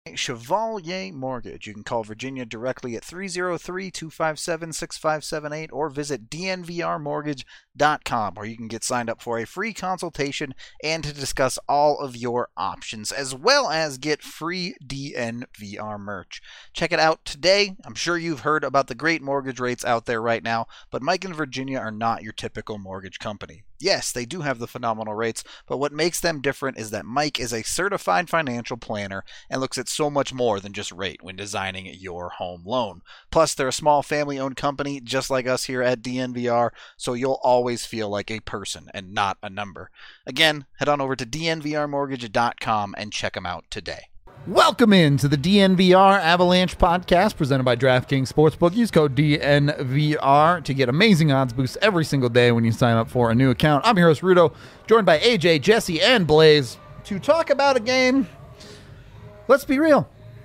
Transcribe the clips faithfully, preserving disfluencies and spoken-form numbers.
Chevalier Mortgage. You can call Virginia directly at three oh three, two five seven, six five seven eight or visit d n v r mortgage dot com, where you can get signed up for a free consultation and to discuss all of your options, as well as get free D N V R merch. Check it out today. I'm sure you've heard about the great mortgage rates out there right now, but Mike and Virginia are not your typical mortgage company. Yes, they do have the phenomenal rates, but what makes them different is that Mike is a certified financial planner and looks at so much more than just rate when designing your home loan. Plus, they're a small family-owned company just like us here at D N V R, so you'll always feel like a person and not a number. Again, head on over to d n v r mortgage dot com and check them out today. Welcome in to the D N V R Avalanche podcast presented by DraftKings Sportsbook. Use code D N V R to get amazing odds boosts every single day when you sign up for a new account. I'm your host, Rudo, joined by A J, Jesse, and Blaze to talk about a game. Let's be real.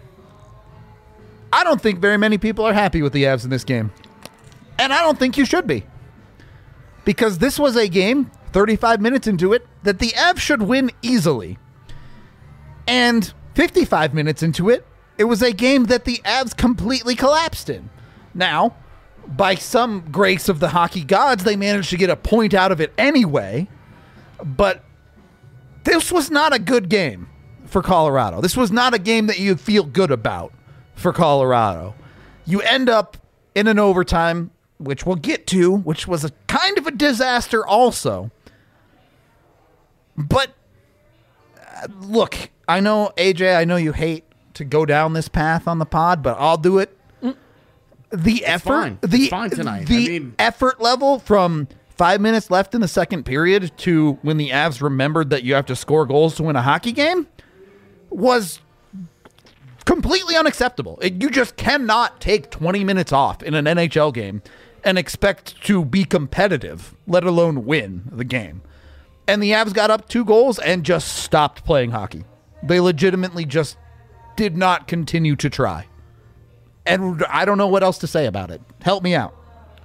I don't think very many people are happy with the Avs in this game. And I don't think you should be. Because this was a game, thirty-five minutes into it, that the Avs should win easily. And fifty-five minutes into it, it was a game that the Avs completely collapsed in. Now, by some grace of the hockey gods, they managed to get a point out of it anyway. But this was not a good game for Colorado. This was not a game that you feel good about for Colorado. You end up in an overtime, which we'll get to, which was a kind of a disaster also. But uh, look, I know, A J, I know you hate to go down this path on the pod, but I'll do it. The it's effort, fine. the It's fine tonight. the I mean, effort level from five minutes left in the second period to when the Avs remembered that you have to score goals to win a hockey game was completely unacceptable. It, you just cannot take twenty minutes off in an N H L game and expect to be competitive, let alone win the game. And the Avs got up two goals and just stopped playing hockey. They legitimately just did not continue to try. And I don't know what else to say about it. Help me out.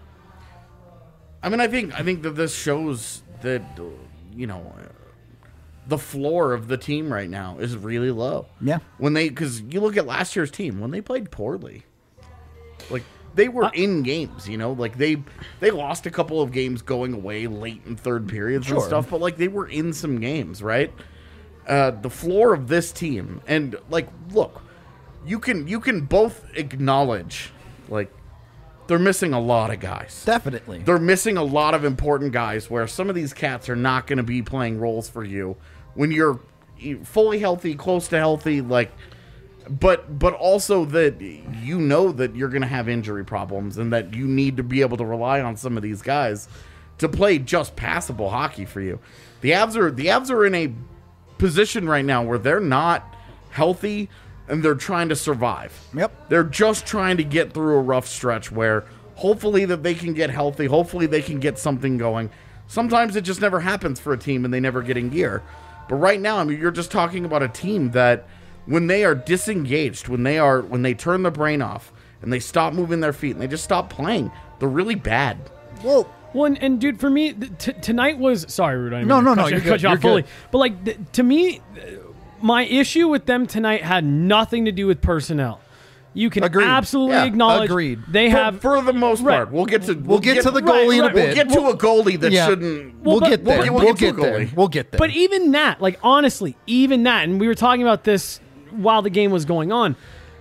I mean, I think I think that this shows that, you know, the floor of the team right now is really low. Yeah. When they, because you look at last year's team, when they played poorly, like they were uh, in games, you know, like they they lost a couple of games going away late in third periods sure. and stuff, but like they were in some games, right? Uh, the floor of this team, and like, look, you can you can both acknowledge, like, they're missing a lot of guys. Definitely. They're missing a lot of important guys where some of these cats are not going to be playing roles for you when you're fully healthy, close to healthy, like, but but also that you know that you're going to have injury problems and that you need to be able to rely on some of these guys to play just passable hockey for you. The Avs are the Avs are in a position right now where they're not healthy and they're trying to survive. Yep. They're just trying to get through a rough stretch where hopefully that they can get healthy. Hopefully they can get something going. Sometimes it just never happens for a team and they never get in gear. But right now, I mean, you're just talking about a team that when they are disengaged, when they are, when they turn their brain off and they stop moving their feet and they just stop playing, they're really bad. Whoa. Well, and, and dude, for me, t- tonight was, sorry, Rude, I didn't No, mean no, to no, cut you're you, good, cut you you're off fully. good. But like, th- to me, my issue with them tonight had nothing to do with personnel. You can Agreed. absolutely Yeah, acknowledge agreed. they For, have for the most Right. part, we'll get to We'll get to the goalie in a right, bit. We'll get to a goalie that Yeah. shouldn't. We'll, but- get there. we'll- We'll, we'll get get to a there. goalie. We'll get there. But even that, like, honestly, even that, and we were talking about this while the game was going on,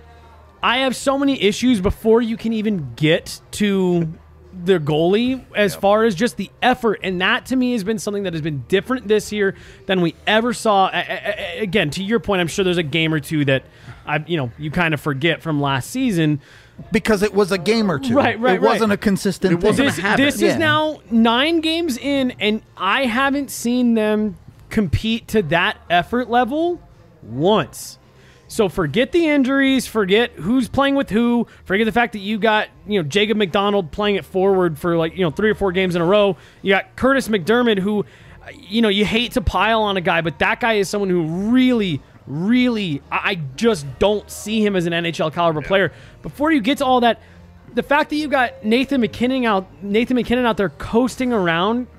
I have so many issues before you can even get to the goalie as yep. far as just the effort. And that, to me, has been something that has been different this year than we ever saw. I, I, again, to your point, I'm sure there's a game or two that, I, you know, you kind of forget from last season. Because it was a game or two. Right, right, It wasn't right. a consistent It thing. wasn't This, a habit. this Yeah. is now nine games in, and I haven't seen them compete to that effort level once. So forget the injuries, forget who's playing with who, forget the fact that you got, you know, Jacob McDonald playing it forward for like, you know, three or four games in a row. You got Curtis McDermott, who, you know, you hate to pile on a guy, but that guy is someone who really, really, I just don't see him as an N H L caliber player. Before you get to all that, the fact that you got Nathan McKinnon out, Nathan McKinnon out there coasting around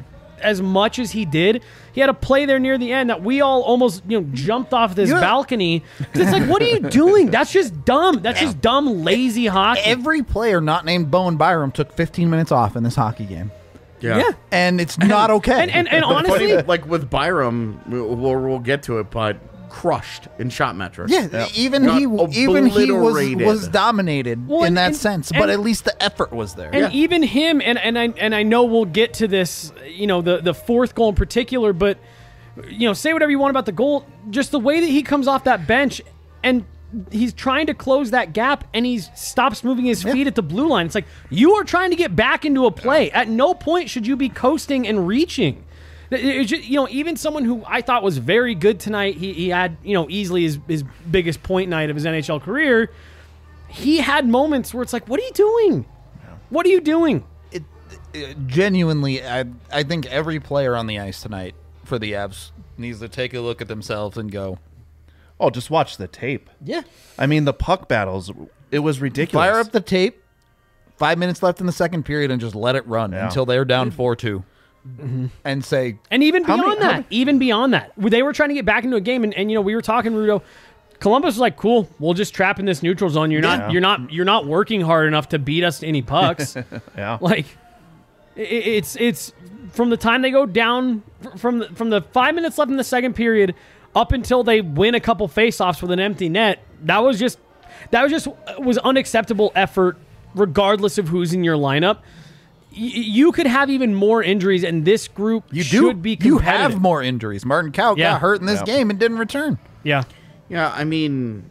as much as he did, he had a play there near the end that we all almost, you know, jumped off this You know- balcony. It's like, what are you doing? That's just dumb. That's just dumb, lazy hockey. Every player not named Bowen Byram took fifteen minutes off in this hockey game. Yeah. yeah. And it's not okay. And, and, and Funny, honestly, like with Byram, we'll, we'll get to it, but crushed in shot metrics. yeah, even Got he even he was obliterated. was dominated Well, in and- that and- sense, and- but at least the effort was there. and Yeah. even him, and, and I and I know we'll get to this, you know, the the fourth goal in particular, but you know, say whatever you want about the goal, just the way that he comes off that bench and he's trying to close that gap and he stops moving his feet at the blue line. It's like, you are trying to get back into a play. At no point should you be coasting and reaching. It's just, you know, even someone who I thought was very good tonight, he, he had, you know, easily his, his biggest point night of his N H L career. He had moments where it's like, what are you doing? What are you doing? It, it- genuinely, I I think every player on the ice tonight for the Avs needs to take a look at themselves and go, Oh, just watch the tape. yeah, I mean, the puck battles, it was ridiculous. fire up the tape. Five minutes left in the second period, and just let it run Yeah. until they're down four two, and say, And even How beyond many- how that, many- even beyond that, they were trying to get back into a game, and, and you know, we were talking, Rudo. Columbus was like, "Cool, we'll just trap in this neutral zone. You're not, Yeah. you're not, you're not working hard enough to beat us to any pucks." Yeah. Like, i- it's it's from the time they go down from the, from the five minutes left in the second period up until they win a couple faceoffs with an empty net. That was just that was just was unacceptable effort, regardless of who's in your lineup. Y- you could have even more injuries, and this group "You should do, be you competitive. have more injuries." Martin Kaut Yeah. got hurt in this Yeah. game and didn't return. Yeah, Yeah, I mean,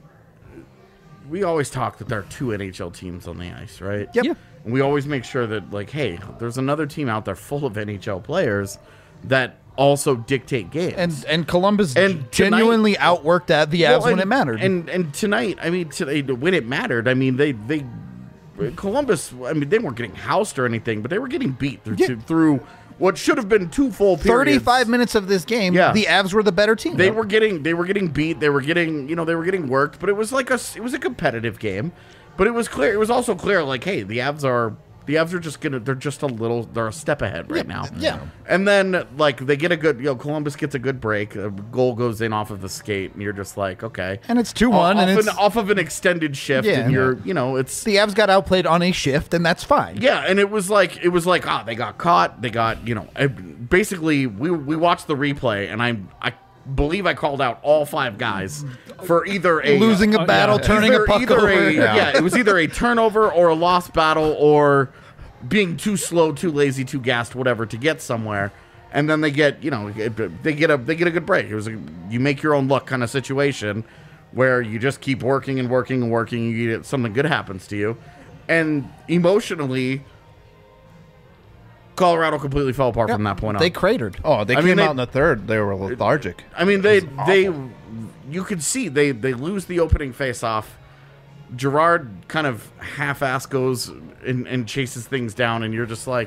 we always talk that there are two N H L teams on the ice, right? Yep. Yeah. And we always make sure that, like, hey, there's another team out there full of N H L players that also dictate games. And and Columbus And genuinely outworked at the Avs Well, when and- it mattered. And and tonight, I mean, today when it mattered, I mean, they they Columbus. I mean, they weren't getting housed or anything, but they were getting beat through Yeah. through what should have been two full periods. thirty-five minutes of this game, Yeah. the Avs were the better team. They were getting they were getting beat. They were getting you know they were getting worked. But it was like a it was a competitive game. But it was clear. It was also clear. Like, hey, the Avs are the Avs are just gonna. They're just a little. They're a step ahead right now. yeah. And then like they get a good. You know, Columbus gets a good break. A goal goes in off of the skate, and you're just like, okay. And it's two one, off, and an, it's off of an extended shift, Yeah. and you're you know it's the Avs got outplayed on a shift, and that's fine. yeah, and it was like it was like ah, they got caught. They got you know, I- basically we we watched the replay, and I I believe I called out all five guys for either a Losing a Uh, battle, yeah. turning either, a puck either over. A, yeah. it was either a turnover or a lost battle or being too slow, too lazy, too gassed, whatever to get somewhere. And then they get you know they get a they get a good break. It was a, you make your own luck kind of situation where you just keep working and working and working. And you get something good happens to you, and emotionally. Colorado completely fell apart from that point on. They cratered. Oh, they I came mean, they- out in the third. They were lethargic. I mean, they they you could see they they lose the opening faceoff. Gerard kind of half-ass goes and, and chases things down, and you're just like,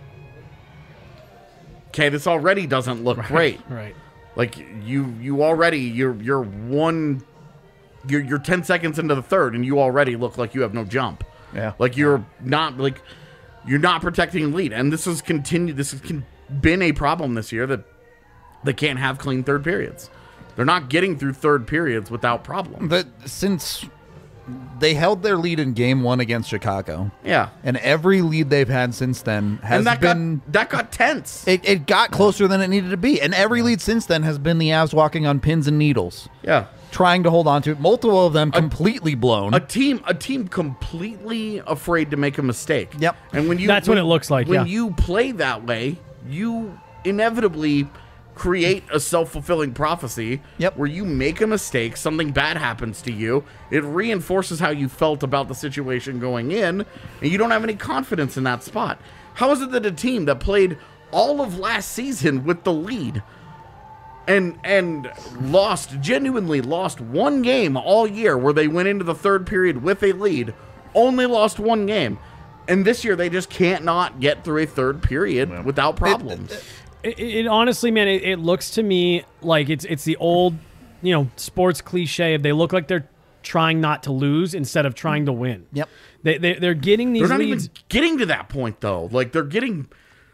okay, this already doesn't look great. right. Like you you already you're you're one you're you're ten seconds into the third, and you already look like you have no jump. Yeah. Like you're not like you're not protecting the lead, and this has continued. This has con- been a problem this year that they can't have clean third periods. They're not getting through third periods without problems. But since they held their lead in game one against Chicago, Yeah, and every lead they've had since then has and that been. got that got tense. It, it got closer than it needed to be. And every lead since then has been the Avs walking on pins and needles, yeah, trying to hold on to it. Multiple of them completely blown. a team a team completely afraid to make a mistake. Yep. And when you That's what it looks like, When yeah. you play that way, you inevitably create a self-fulfilling prophecy. Yep. Where you make a mistake, something bad happens to you, it reinforces how you felt about the situation going in, and you don't have any confidence in that spot. How is it that a team that played all of last season with the lead and and lost, genuinely lost one game all year where they went into the third period with a lead, only lost one game, and this year they just can't not get through a third period without problems? It, it honestly, man, it, it looks to me like it's it's the old, you know, sports cliche of they look like they're trying not to lose instead of trying to win. Yep. They, they they're getting these They're not leads. even getting to that point though. Like they're getting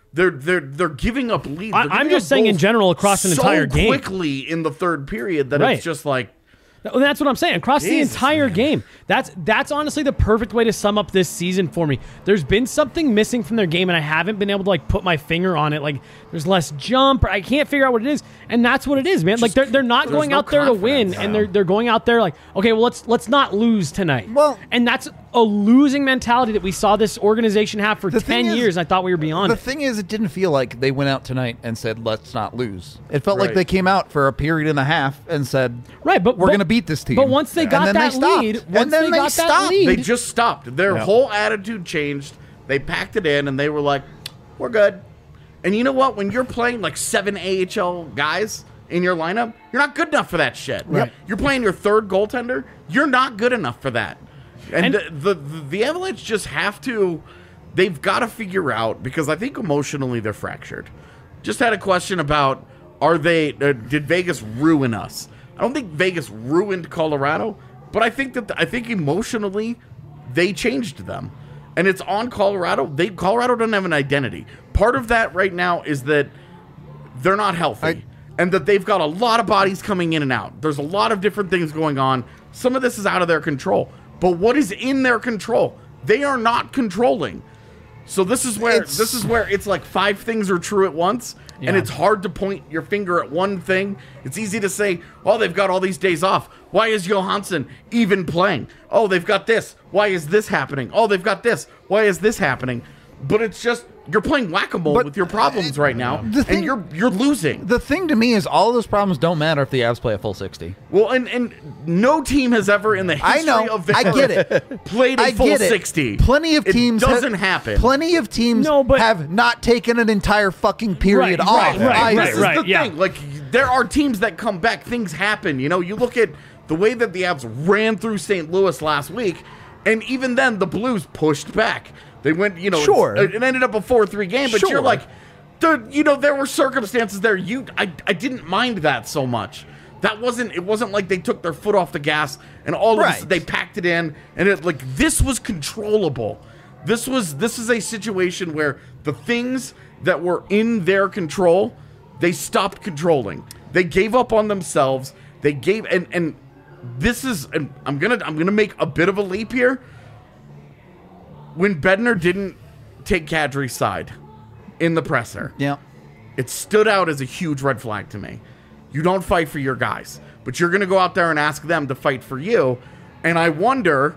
They're they're they're giving up leads. I, They're I'm giving just up saying in goals general across an so entire game. quickly in the third period that Right. it's just like. Well, that's what I'm saying. Across Jesus, the entire man. game. That's that's honestly the perfect way to sum up this season for me. There's been something missing from their game, and I haven't been able to like put my finger on it. Like there's less jump, or I can't figure out what it is, and that's what it is, man. like they're they're not there's going no out there to win, confidence. and they're they're going out there like, okay, well let's let's not lose tonight. Well- and that's a losing mentality that we saw this organization have for The thing ten is- years. I thought we were beyond The it. thing is, it didn't feel like they went out tonight and said, let's not lose. It felt like Right. they came out for a period and a half and said, Right, but we're but- going to beat this team. But once they And got then that they stopped. lead, And once then they they got that stopped. lead, They just stopped. Their Yeah. whole attitude changed. They packed it in and they were like, we're good. And you know what? When you're playing like seven A H L guys in your lineup, you're not good enough for that shit. Right. You're playing your third goaltender, you're not good enough for that. And, And- the, the, the Avalanche just have to, they've got to figure out, because I think emotionally they're fractured. Just had a question about, are they, uh, did Vegas ruin us? I don't think Vegas ruined Colorado, but I think that, I think emotionally they changed them. And it's on Colorado. They Colorado doesn't have an identity. Part of that right now is that they're not healthy. I- and that they've got a lot of bodies coming in and out. There's a lot of different things going on. Some of this is out of their control. But what is in their control? They are not controlling. So this is where It's- this is where it's like five things are true at once, and Yeah. it's hard to point your finger at one thing. It's easy to say, "Oh, they've got all these days off. Why is Johansson even playing? Oh, they've got this. Why is this happening? Oh, they've got this. Why is this happening?" But it's just you're playing whack-a-mole But, with your problems right now, the thing- and you're you're losing. The thing to me is all of those problems don't matter if the Avs play a full sixty. Well, and and no team has ever in the I history know. of their I get it. played a I full get it. sixty. Plenty of It teams ha- doesn't happen. Plenty of teams No, but- have not taken an entire fucking period Right, off. right, right, either. right, This is right. the yeah. thing. Like, there are teams that come back. Things happen. You know, you look at the way that the Avs ran through Saint Louis last week, and even then, the Blues pushed back. They went, you know, Sure. it, it ended up a four three game, but Sure. you're like, dude, you know, there were circumstances there. You, I, I didn't mind that so much. That wasn't, it wasn't like they took their foot off the gas and all of Right. this, they packed it in, and it, like, this was controllable. This was, this is a situation where the things that were in their control, they stopped controlling. They gave up on themselves. They gave, and, and this is, and I'm gonna, I'm gonna make a bit of a leap here. When Bednar didn't take Kadri's side in the presser, Yeah. it stood out as a huge red flag to me. You don't fight for your guys, but you're going to go out there and ask them to fight for you. And I wonder,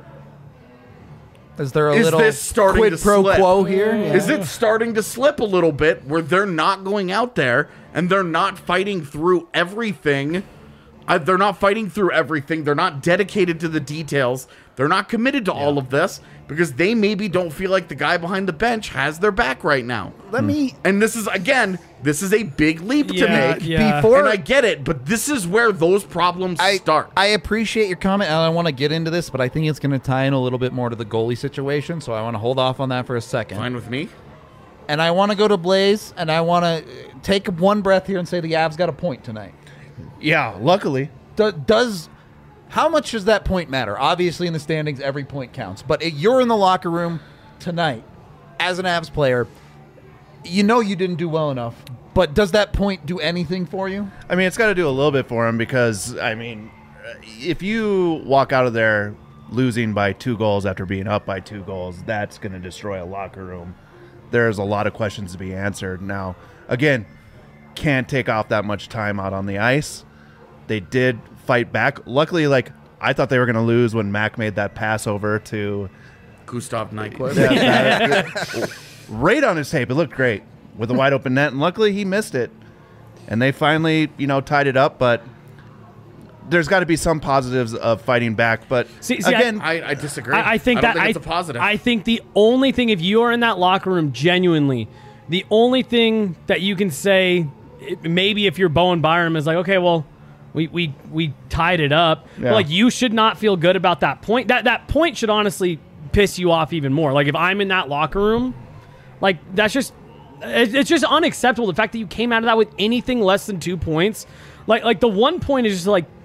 Is there a Is little this starting quid to pro slip? quo here? Yeah. is it starting to slip a little bit where they're not going out there and they're not fighting through everything? Uh, they're not fighting through everything. They're not dedicated to the details. They're not committed to all of this because they maybe don't feel like the guy behind the bench has their back right now. Let me And this is, again, this is a big leap to Yeah, make. yeah. before And I get it, but this is where those problems I, start. I appreciate your comment, and I want to get into this, but I think it's going to tie in a little bit more to the goalie situation, so I want to hold off on that for a second. Fine with me. And I want to go to Blaze, and I want to take one breath here and say the Avs got a point tonight. Yeah, luckily. Do, does how much does that point matter? Obviously, in the standings, every point counts. But it, you're in the locker room tonight as an Avs player. You know you didn't do well enough, but does that point do anything for you? I mean, it's got to do a little bit for him because, I mean, if you walk out of there losing by two goals after being up by two goals, that's going to destroy a locker room. There's a lot of questions to be answered. Now, again, can't take off that much time out on the ice. They did fight back. Luckily, like, I thought they were going to lose when Mac made that pass over to Gustav Nyquist. that, that- right on his tape. It looked great with a wide open net, and luckily he missed it. And they finally, you know, tied it up. But there's got to be some positives of fighting back. But See- see, I- again, I, I disagree. I, I think I don't that think I, it's a positive. I think the only thing, if you are in that locker room genuinely, the only thing that you can say, it- maybe if you're Bowen Byram, is like, okay, well, we we we tied it up. But Yeah. like, you should not feel good about that point. That that point should honestly piss you off even more. Like, if I'm in that locker room, like, that's just it- it's just unacceptable. The fact that you came out of that with anything less than two points, like like the one point is just like,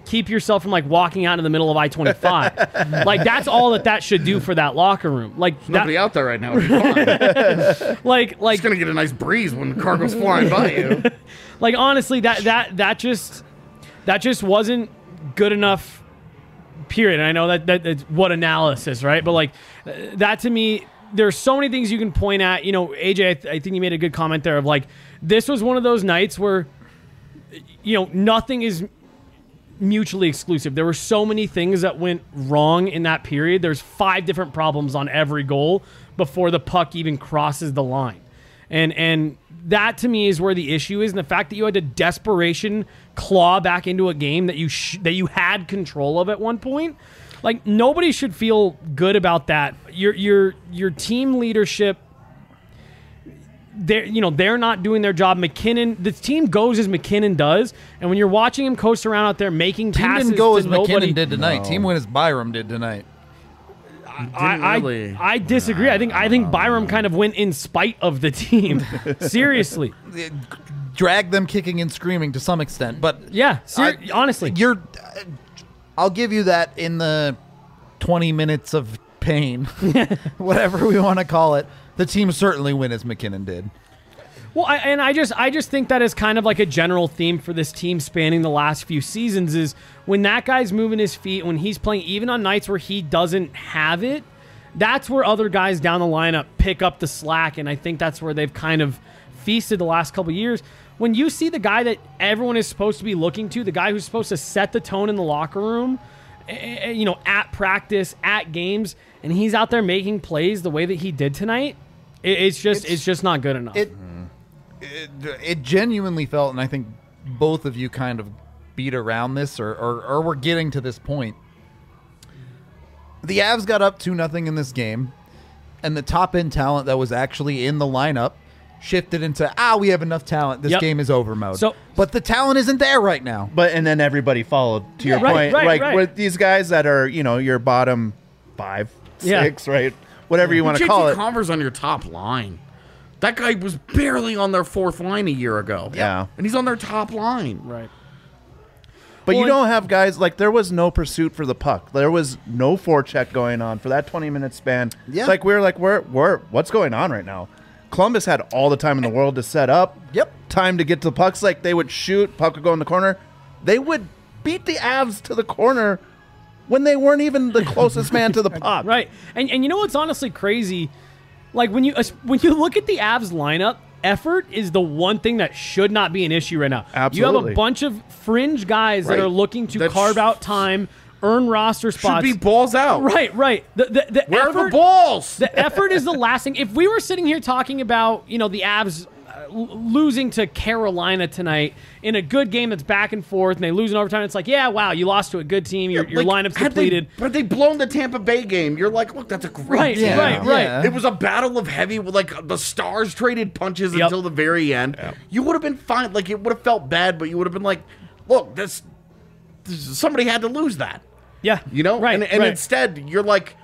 keep yourself from like walking out in the middle of I twenty-five. Like that's all that that should do for that locker room. Like There's nobody that, out there right now. It's fine. like like It's gonna get a nice breeze when the car goes flying by you. like honestly that that that just that just wasn't good enough. Period. And I know that that that's what analysis, right? But like uh, that to me, there's so many things you can point at. You know, A J, I, th- I think you made a good comment there of like this was one of those nights where you know nothing is mutually exclusive. There were so many things that went wrong in that period. There's five different problems on every goal before the puck even crosses the line. And and that to me is where the issue is, and the fact that you had to desperation claw back into a game that you sh- that you had control of at one point. Like nobody should feel good about that. Your your your team leadership, they're you know they're not doing their job. McKinnon, the team goes as McKinnon does, and when you're watching him coast around out there making Team passes didn't go to as nobody, McKinnon did tonight. No. Team went as Byram did tonight. I, I, really. I disagree. I think I think Byram kind of went in spite of the team. Seriously, Drag them kicking and screaming to some extent, but yeah. Ser- I- honestly, you're. I'll give you that in the twenty minutes of pain, whatever we want to call it. The team certainly win as McKinnon did. well, I, and I just I just think that is kind of like a general theme for this team spanning the last few seasons is when that guy's moving his feet, when he's playing, even on nights where he doesn't have it, that's where other guys down the lineup pick up the slack, and I think that's where they've kind of feasted the last couple of years. When you see the guy that everyone is supposed to be looking to, the guy who's supposed to set the tone in the locker room, eh, you know, at practice, at games, and he's out there making plays the way that he did tonight, it, it's just it's, It's- just not good enough. It, it it genuinely felt, and I think both of you kind of beat around this, or or, or we're getting to this point. The Avs got up two nothing in this game, and the top end talent that was actually in the lineup shifted into ah we have enough talent. This Yep. game is over mode. So- but the talent isn't there right now. But and then everybody followed to your right, point, right, like right. with these guys that are you know your bottom five, Yeah. six, right, whatever you want to J T call it. Converse on your top line. That guy was barely on their fourth line a year ago. Yeah. And he's on their top line. right. But Well, you don't have guys like there was no pursuit for the puck. There was no forecheck going on for that twenty minute span. Yeah. Like we're like we're we're what's going on right now? Columbus had all the time in the world to set up. Yep. Time to get to the pucks. Like they would shoot, puck would go in the corner. They would beat the Avs to the corner when they weren't even the closest man to the puck. Right. And and you know what's honestly crazy? Like when you when you look at the Avs lineup, effort is the one thing that should not be an issue right now. You have Absolutely. a bunch of fringe guys that Right. are looking to That carve sh- out time, earn roster Should spots. be balls out. Right, right. The the, the Where effort, are the balls? The effort is the last thing. If we were sitting here talking about, you know, the Avs uh, l- losing to Carolina tonight in a good game that's back and forth, and they lose in overtime, it's like, yeah, wow, you lost to a good team. Your, your Like, lineup's had depleted. They, had they blown the Tampa Bay game, you're like, look, that's a great Right, game. right, right. Yeah. It was a battle of heavy, like the Stars traded punches Yep. until the very end. You would have been fine. Like it would have felt bad, but you would have been like, look, this, this somebody had to lose that. Yeah. You know? Right, And, and right. instead, you're like,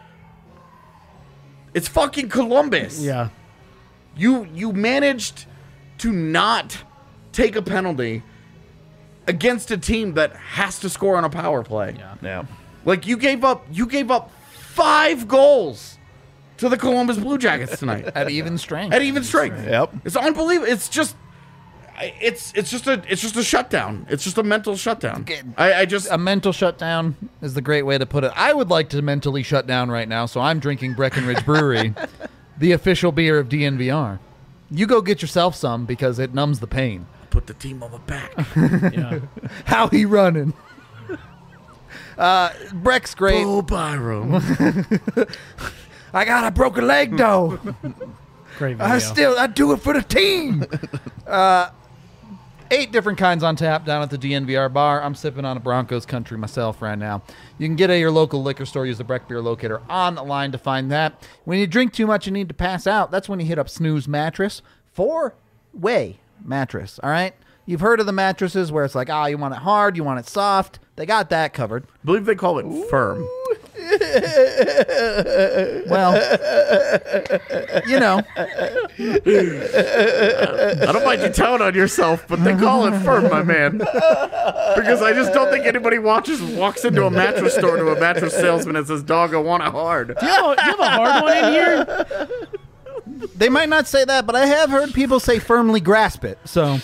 it's fucking Columbus. Yeah. You you managed to not take a penalty against a team that has to score on a power play. Yeah. Yeah. Like you gave up you gave up five goals to the Columbus Blue Jackets tonight. At even strength. At even strength. Yep. It's unbelievable. It's just I- it's it's just a it's just a shutdown. It's just a mental shutdown. I, I just A mental shutdown is the great way to put it. I would like to mentally shut down right now, so I'm drinking Breckenridge Brewery, the official beer of D N V R. You go get yourself some because it numbs the pain. put the team on the back. Yeah. How he running? Uh, Breck's great. Oh, Byram. I got a broken leg though. Great video. I still I do it for the team. uh, eight different kinds on tap down at the D N V R bar. I'm sipping on a Broncos country myself right now. You can get it at your local liquor store. Use the Breck Beer Locator online to find that. When you drink too much and need to pass out, that's when you hit up Snooze Mattress. Four-way mattress, all right? You've heard of the mattresses where it's like, ah, oh, you want it hard, you want it soft. They got that covered. I believe they call it firm. Well, you know, I don't mind you telling on yourself, but they call it firm, my man. Because I just don't think anybody watches walks into a mattress store to a mattress salesman and says, "Dog, I want it hard." Do you have a, do you have a hard one in here? They might not say that, but I have heard people say firmly grasp it. So,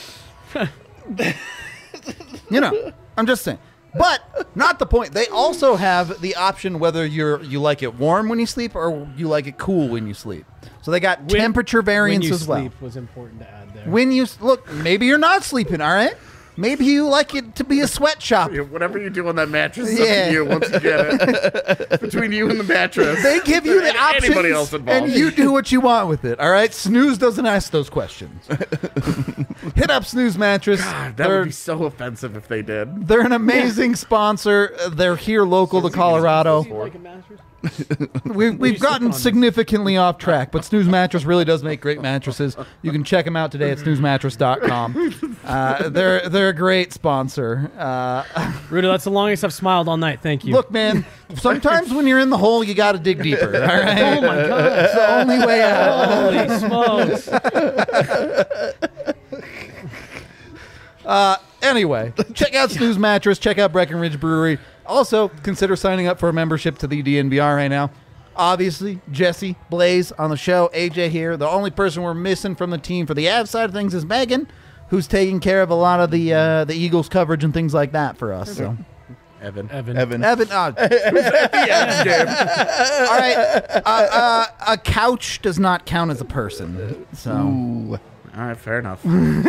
you know, I'm just saying. But not the point. They also have the option whether you're you like it warm when you sleep or you like it cool when you sleep. So they got When- temperature variance when you as well. sleep was important to add there. When you look, maybe you're not sleeping. All right. Maybe you like it to be a sweatshop. Yeah, whatever you do on that mattress is Yeah. up to you once you get it. Between you and the mattress. They give you the And options, anybody else involved. and you do what you want with it. All right, Snooze doesn't ask those questions. Hit up Snooze Mattress. God, that they're, would be so offensive if they did. they're an amazing sponsor. Uh, They're here local to Colorado. Do you like a mattress? We, we've sleeping gotten on this? significantly off track, but Snooze Mattress really does make great mattresses. You can check them out today at snooze mattress dot com. Uh, they're they're a great sponsor. Uh, Rudo, that's the longest I've smiled all night. Thank you. look, man, sometimes when you're in the hole, you got to dig deeper. All right, Oh my god. it's the only way out. Holy smokes. Anyway, check out Snooze Mattress. Check out Breckenridge Brewery. Also, consider signing up for a membership to the D N V R right now. Obviously, Jesse, Blaze on the show, A J here. The only person we're missing from the team for the Avs side of things is Megan, who's taking care of a lot of the uh, the Eagles coverage and things like that for us. So, Evan. Evan. Evan. Evan, uh, all right, uh, uh, a couch does not count as a person. So, Ooh. All right, fair enough.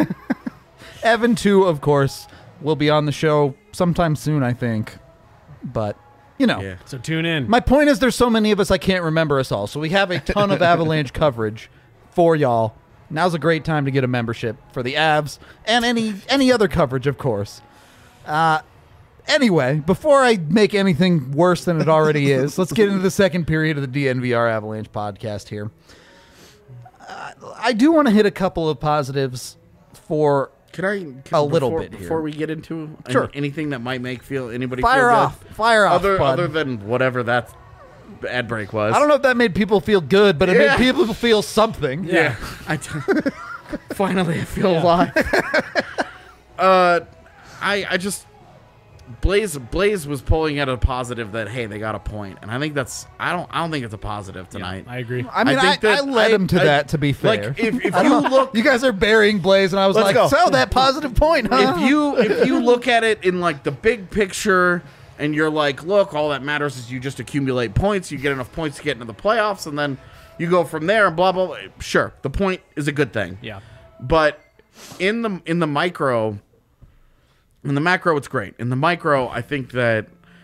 Evan too, of course, will be on the show sometime soon, I think. But you know. Yeah. So tune in. My point is there's so many of us I can't remember us all. So we have a ton of Avalanche coverage for y'all. Now's a great time to get a membership for the Avs and any any other coverage, of course. Uh, anyway, before I make anything worse than it already is, let's get into the second period of the D N V R Avalanche podcast here. Uh, I do want to hit a couple of positives for Can I can, A little before, bit here. before we get into any- Sure. anything that might make feel anybody fire feel off, good? fire off, Other bud. other than whatever that ad break was. I don't know if that made people feel good, but it Yeah. made people feel something. Yeah, I t- finally I feel alive. uh, I I just Blaze Blaze was pulling at a positive that hey they got a point, and I think that's I don't I don't think it's a positive tonight. I agree. I mean, I, think that I led I- him to I- that, to be fair. Like if, if you look You guys are burying Blaze, and I was Let's like, go. so that positive point, huh? if you if you look at it in like the big picture and you're like, look, all that matters is you just accumulate points, you get enough points to get into the playoffs, and then you go from there and blah blah blah. Sure, the point is a good thing. Yeah. But in the in the micro, in the macro, it's great. In the micro, I think that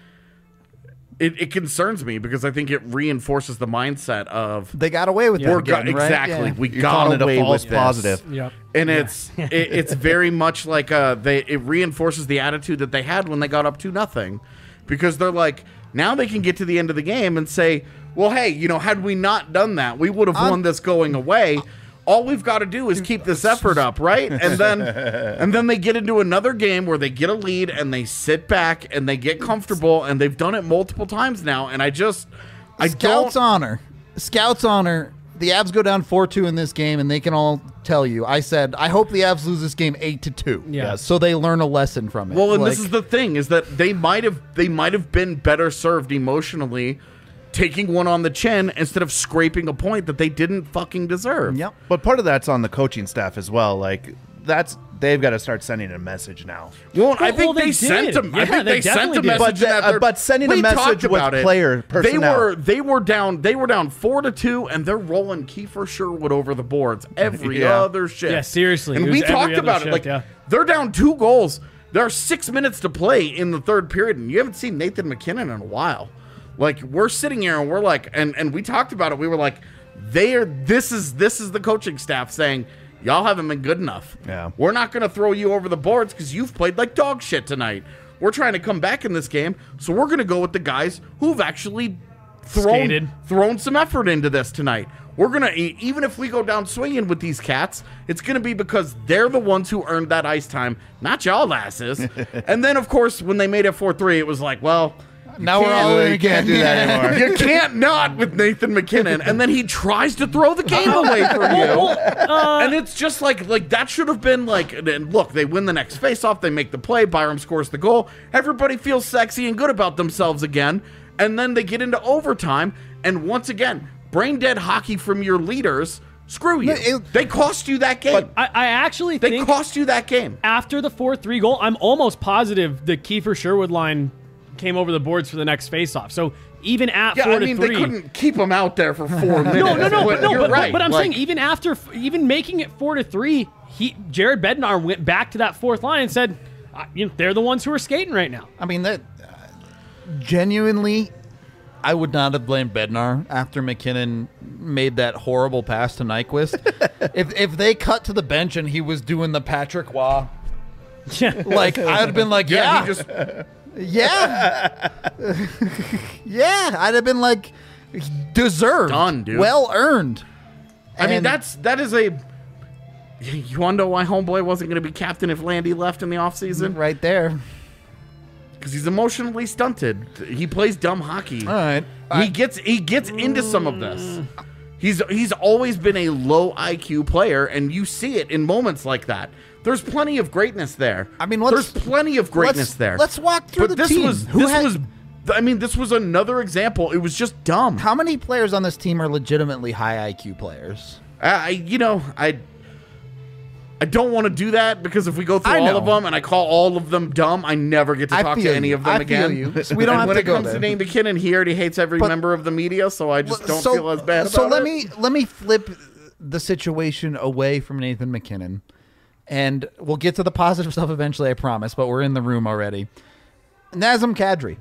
it, it concerns me because I think it reinforces the mindset of They got away with Yeah. it we're go- again, right? exactly Yeah. we You're got calling it a away false with this. positive. Yep. And it's it, it's very much like uh they it reinforces the attitude that they had when they got up to nothing, because they're like now they can get to the end of the game and say, well, hey, you know, had we not done that, we would have I'm- won this going away. All we've got to do is keep this effort up, right? And then and then they get into another game where they get a lead and they sit back and they get comfortable, and they've done it multiple times now. And I just I Scouts don't honor. Scouts honor. The Avs go down four two in this game, and they can all tell you. I said, I hope the Avs lose this game eight to two. Yeah. So they learn a lesson from it. Well, and Like, this is the thing, is that they might have they might have been better served emotionally taking one on the chin instead of scraping a point that they didn't fucking deserve. Yep. But part of that's on the coaching staff as well. Like that's they've got to start sending a message now. Well, I Well, think well, they, they sent did. them. I Yeah, think they they, sent definitely a did. message. But in the- that uh, they're- but sending a we message talked with about it. player They personnel. were they were down they were down four to two, and they're rolling Kiefer Sherwood over the boards every Yeah. other shift. Yeah, seriously. And It we was every talked other about it. shift, Like yeah. they're down two goals. There are six minutes to play in the third period, and you haven't seen Nathan McKinnon in a while. Like we're sitting here and we're like, and and we talked about it. We were like, they are. This is this is the coaching staff saying, y'all haven't been good enough. Yeah. We're not going to throw you over the boards because you've played like dog shit tonight. We're trying to come back in this game, so we're going to go with the guys who've actually thrown Skated. thrown some effort into this tonight. We're gonna e- even if we go down swinging with these cats, it's gonna be because they're the ones who earned that ice time, not y'all asses. And then of course when they made it four three, it was like, well, Now we're can't- all in You can't again. do that anymore. You can't not with Nathan McKinnon, and then he tries to throw the game away from you. and it's just like like that should have been like. And look, they win the next faceoff, they make the play, Byram scores the goal. Everybody feels sexy and good about themselves again, and then they get into overtime, and once again, brain dead hockey from your leaders. Screw you. it- They cost you that game. I, I actually they think cost you that game. after the four three goal, I'm almost positive the Kiefer Sherwood line came over the boards for the next faceoff. So even at Yeah, four I mean to they three, couldn't keep him out there for four minutes. no, no, no, but no. you're But, right. but, but I'm Like, saying even after, even making it four to three, he Jared Bednar went back to that fourth line and said, uh, you know, they're the ones who are skating right now. I mean, that uh, genuinely, I would not have blamed Bednar after McKinnon made that horrible pass to Nyquist. if if they cut to the bench and he was doing the Patrick Waugh, Yeah. like I'd have been like, yeah, yeah, he just yeah, yeah. I'd have been like, deserved, Done, dude. well earned. I mean, And- that's that is a. You want to know why Homeboy wasn't going to be captain if Landy left in the offseason? right there. Because he's emotionally stunted. He plays dumb hockey. All right. He gets he gets into some of this. He's he's always been a low I Q player, and you see it in moments like that. There's plenty of greatness there. I mean, let's- there's plenty of greatness let's- there. let's walk through but the this team. was Who this had- was. I mean, this was another example. It was just dumb. How many players on this team are legitimately high I Q players? I, you know, I I don't want to do that because if we go through I all know. of them and I call all of them dumb, I never get to I talk feel to any you. of them I again. feel you. So we don't and have when to it go comes there. to Nate McKinnon, he already hates every But- member of the media, so I just don't so, feel as bad So about let it. me let me flip the situation away from Nathan McKinnon, and we'll get to the positive stuff eventually, I promise. But we're in the room already. Nazem Kadri,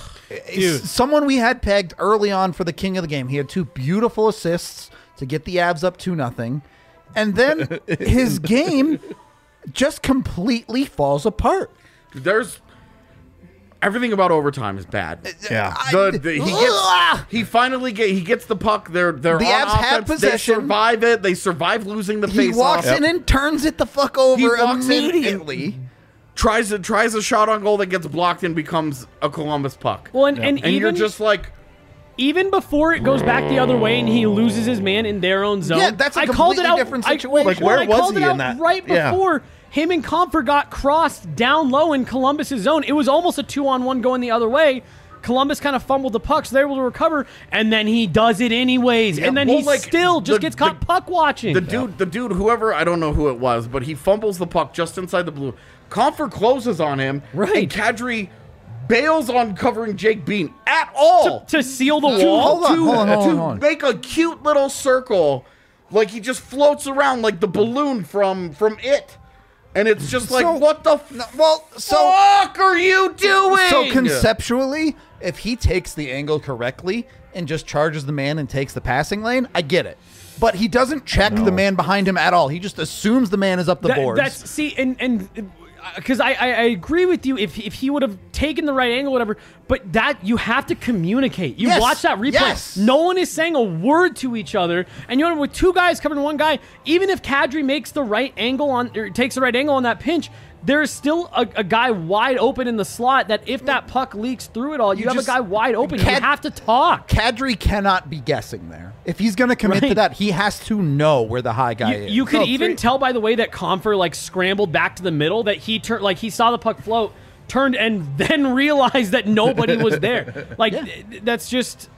Dude. someone we had pegged early on for the king of the game. He had two beautiful assists to get the Avs up two nothing, and then his game just completely falls apart. There's everything about overtime is bad. Yeah. The, the, he gets he finally get he gets the puck. They're they're The on Avs have offense. possession. They survive it. They survive losing the He face walks off. in and turns it the fuck over He walks in and- immediately. Tries a tries a shot on goal that gets blocked and becomes a Columbus puck. Well, and, and, and even you're just like. even before it goes back the other way and he loses his man in their own zone. Yeah, that's a I called it completely out. different I- situation. Like, well, where I was called he it in out that? right Yeah. before him and Comfort got crossed down low in Columbus's zone. It was almost a two-on-one going the other way. Columbus kind of fumbled the puck, so they're able to recover, and then he does it anyways. and then well, he like, still just the- gets caught the- puck watching. The dude, the dude, whoever, I don't know who it was, but he fumbles the puck just inside the blue. Comfort closes on him, Right. and Kadri bails on covering Jake Bean at all. to seal the to, wall. Hold on, to, hold on, hold on, to hold on. make a cute little circle, like he just floats around like the balloon from from It, and it's just like, So- what the f- Well, so fuck are you doing? so conceptually, if he takes the angle correctly and just charges the man and takes the passing lane, I get it. But he doesn't check the man behind him at all. He just assumes the man is up the That- boards. That's see, and and because I, I I agree with you. If if he would have taken the right angle, whatever. But that you have to communicate. You Yes, watch that replay. yes. No one is saying a word to each other, and you know with two guys covering one guy, even if Kadri makes the right angle on or takes the right angle on that pinch. There's still a, a guy wide open in the slot that if that puck leaks through it all, you, You have just- a guy wide open. Cad- you have to talk. Kadri cannot be guessing there. If he's going to commit to Right. that, he has to know where the high guy You, is. you could No, even three- tell by the way that Comfer like scrambled back to the middle that he turned like he saw the puck float, turned and then realized that nobody was there. Like th- that's just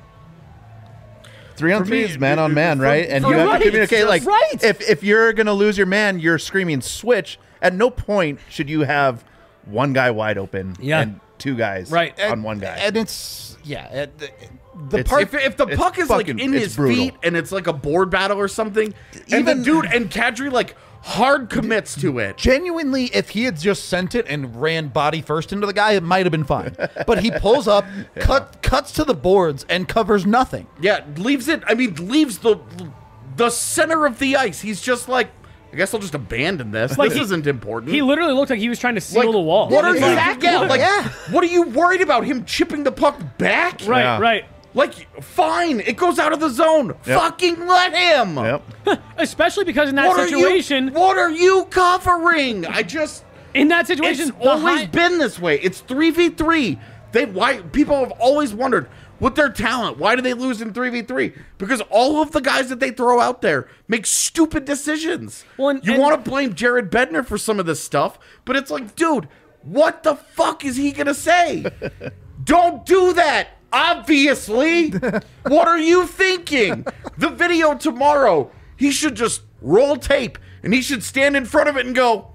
Three on For three me, is man on man, for- right? And for you have right, to communicate. Like, right. if if you're gonna lose your man, you're screaming switch. At no point should you have one guy wide open Yeah. and two guys Right. on and- one guy. And it's, yeah. it- the the It's- part. If, if the It's puck is like fucking- in it's his brutal. feet and it's like a board battle or something, and Even- the dude and Kadri like hard commits to it. Genuinely, if he had just sent it and ran body first into the guy, it might have been fine. But he pulls up, cut, cuts to the boards, and covers nothing. Yeah, leaves it. I mean, leaves the the center of the ice. He's just like, I guess I'll just abandon this. Like this he- isn't important. he literally looked like he was trying to seal like, the wall. What are It's you? like- Yeah, like, Yeah. what are you worried about? Him chipping the puck back? Right, Yeah. right. Like, fine, it goes out of the zone. Yep. Fucking let him. Yep. Especially because in that What situation, Are you, what are you covering? I just. in that situation, It's the always high- been this way. It's three v three. They why people have always wondered with their talent, why do they lose in three v three? Because all of the guys that they throw out there make stupid decisions. Well, and- you and- want to blame Jared Bednar for some of this stuff, but it's like, dude, what the fuck is he gonna say? Don't do that. Obviously. What are you thinking? The video tomorrow, he should just roll tape and he should stand in front of it and go,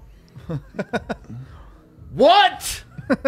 what?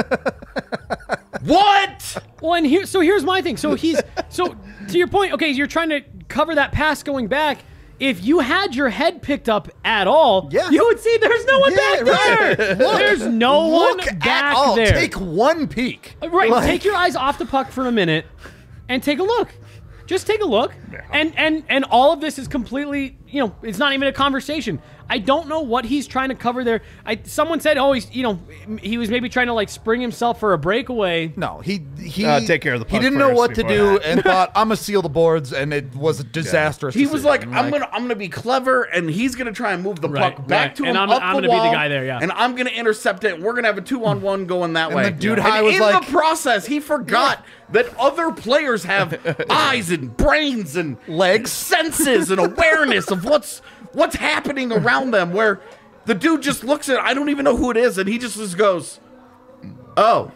What? Well, and here, so here's my thing. So he's, so to your point, okay, you're trying to cover that pass going back. If you had your head picked up at all, Yeah. you would see there's no one Yeah, back right. there. Look, There's no Look one at back all. there. Take one peek. Right, Like- take your eyes off the puck for a minute and take a look. Just take a look. And and and all of this is completely, you know, it's not even a conversation. I don't know what he's trying to cover there. I someone said, "Oh, he's, you know, he was maybe trying to like spring himself for a breakaway." No, he he Uh, take care of the He puck didn't know first what to before do that. and thought, "I'm gonna seal the boards," and it was a disastrous. He was like, decision. I'm gonna, I'm gonna be clever, and he's gonna try and move the Right, puck back right. to And him I'm- up I'm the gonna be the wall, guy there, yeah. and I'm gonna intercept it. And we're gonna have a two-on-one going that way. the dude And high was in like- the process, he forgot that other players have eyes and brains and Legs. senses and awareness of what's what's happening around them. Where the dude just looks at, I don't even know who it is, and he just, just goes, "Oh,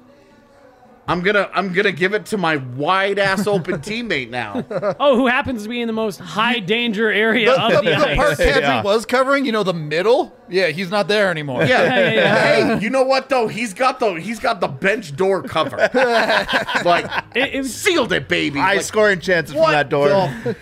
I'm gonna I'm gonna give it to my wide ass open teammate now." Oh, who happens to be in the most high danger area the, of the, the, the part ice. Kadri Yeah. was covering, you know, the middle. Yeah, he's not there anymore. Yeah. Yeah, yeah, yeah. Hey, you know what though? He's got the he's got the bench door covered. Like It, it was, sealed it, baby. High Like, scoring chances from what that door. the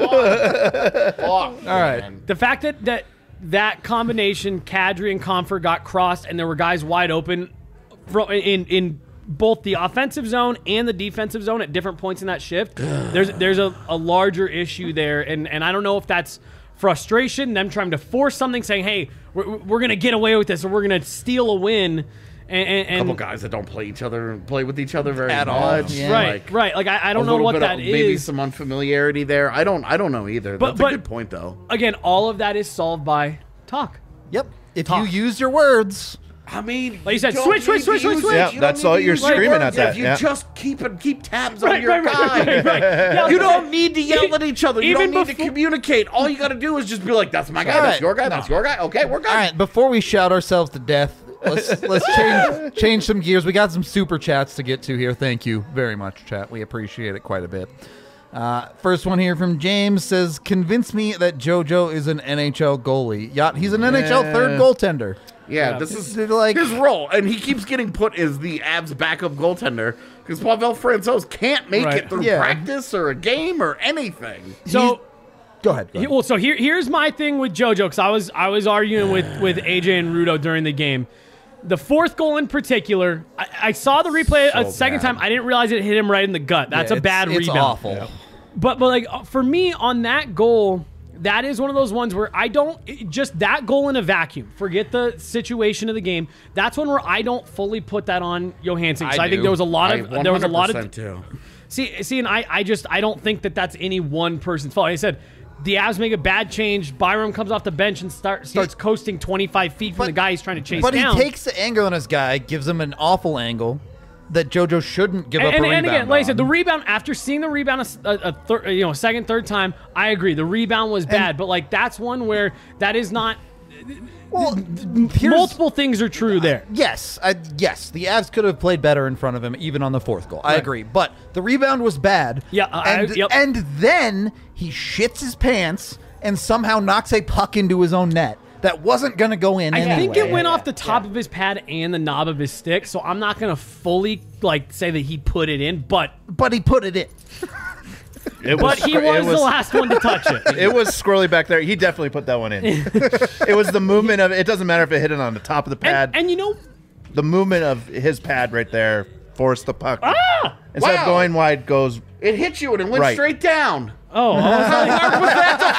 fuck? All right. the fact that that that combination, Kadri and Comfort got crossed, and there were guys wide open fro- in in both the offensive zone and the defensive zone at different points in that shift. there's there's a, a larger issue there, and and I don't know if that's frustration, them trying to force something, saying, "Hey, we're, we're gonna get away with this, or we're gonna steal a win." And, and, and couple guys that don't play each other play with each other very At all, much. yeah. right, Like, right. Like I, I a don't know little what bit that of, is. Maybe some unfamiliarity there. I don't I don't know either. But- That's but- a good point though. Again, all of that is solved by talk. Yep. If Talk. you use your words, I mean, Like you said, don't switch, switch, need switch, to switch, use switch. it. Yeah, You that's don't all need you're to use screaming words. at that, If you yeah. just keep it, keep tabs on Right, your right, right, guy. right, right. Yeah, You but- don't need to yell at each other. You Even don't need to before- communicate. All you got to do is just be like, "That's my guy. All That's right. your guy. That's your guy." Okay, we're good. all right. Before we shout ourselves to death, let's let's change change some gears. We got some super chats to get to here. Thank you very much, chat. We appreciate it quite a bit. Uh, first one here from James says, "Convince me that JoJo is an N H L goalie." Yacht, he's an N H L third goaltender. Yeah, Yeah. this is They're like- his role, and he keeps getting put as the Avs backup goaltender because Pavel Francouz can't make Right. it through Yeah. practice or a game or anything. So. Go ahead. Go He- ahead. Well, so here, here's my thing with JoJo, because I was I was arguing with, with A J and Rudo during the game. The fourth goal in particular, I, I saw the replay a So second bad. time. I didn't realize it hit him right in the gut. That's Yeah, a bad it's, rebound. It's awful. But but like uh, for me on that goal, that is one of those ones where I don't it- just that goal in a vacuum. Forget the situation of the game. That's one where I don't fully put that on Johansson. 'Cause I I, think do. there was a lot I of there was a lot of one hundred percent too. See, see, and I, I just, I don't think that that's any one person's fault. Like I said, the Avs make a bad change. Byram comes off the bench and start, starts coasting twenty-five feet from But- the guy he's trying to chase But down. he takes the angle on his guy, gives him an awful angle that JoJo shouldn't give and, up a and, rebound and again, like I said, the on. rebound after seeing the rebound a, s- a, a thir- you know, second, third time, I agree. The rebound was bad, but like that's one where that is not. well, here's, Multiple things are true there. Yes, I, yes, the Avs could have played better in front of him, even on the fourth goal. I Right. agree, but the rebound was bad. Yeah, I- and, yep. and then he shits his pants and somehow knocks a puck into his own net that wasn't going to go in I anyway. think it went off the top of his pad and the knob of his stick, so I'm not gonna fully like say that he put it in, but but he put it in. It but he it was, the last one to touch it. It was squirrely back there. He definitely put that one in. It was the movement of it. Doesn't matter if it hit it on the top of the pad. And, and you know, the movement of his pad right there forced the puck. ah, Instead Wow. of going wide, goes It hit you and it went Right. straight down. oh, I was like, How was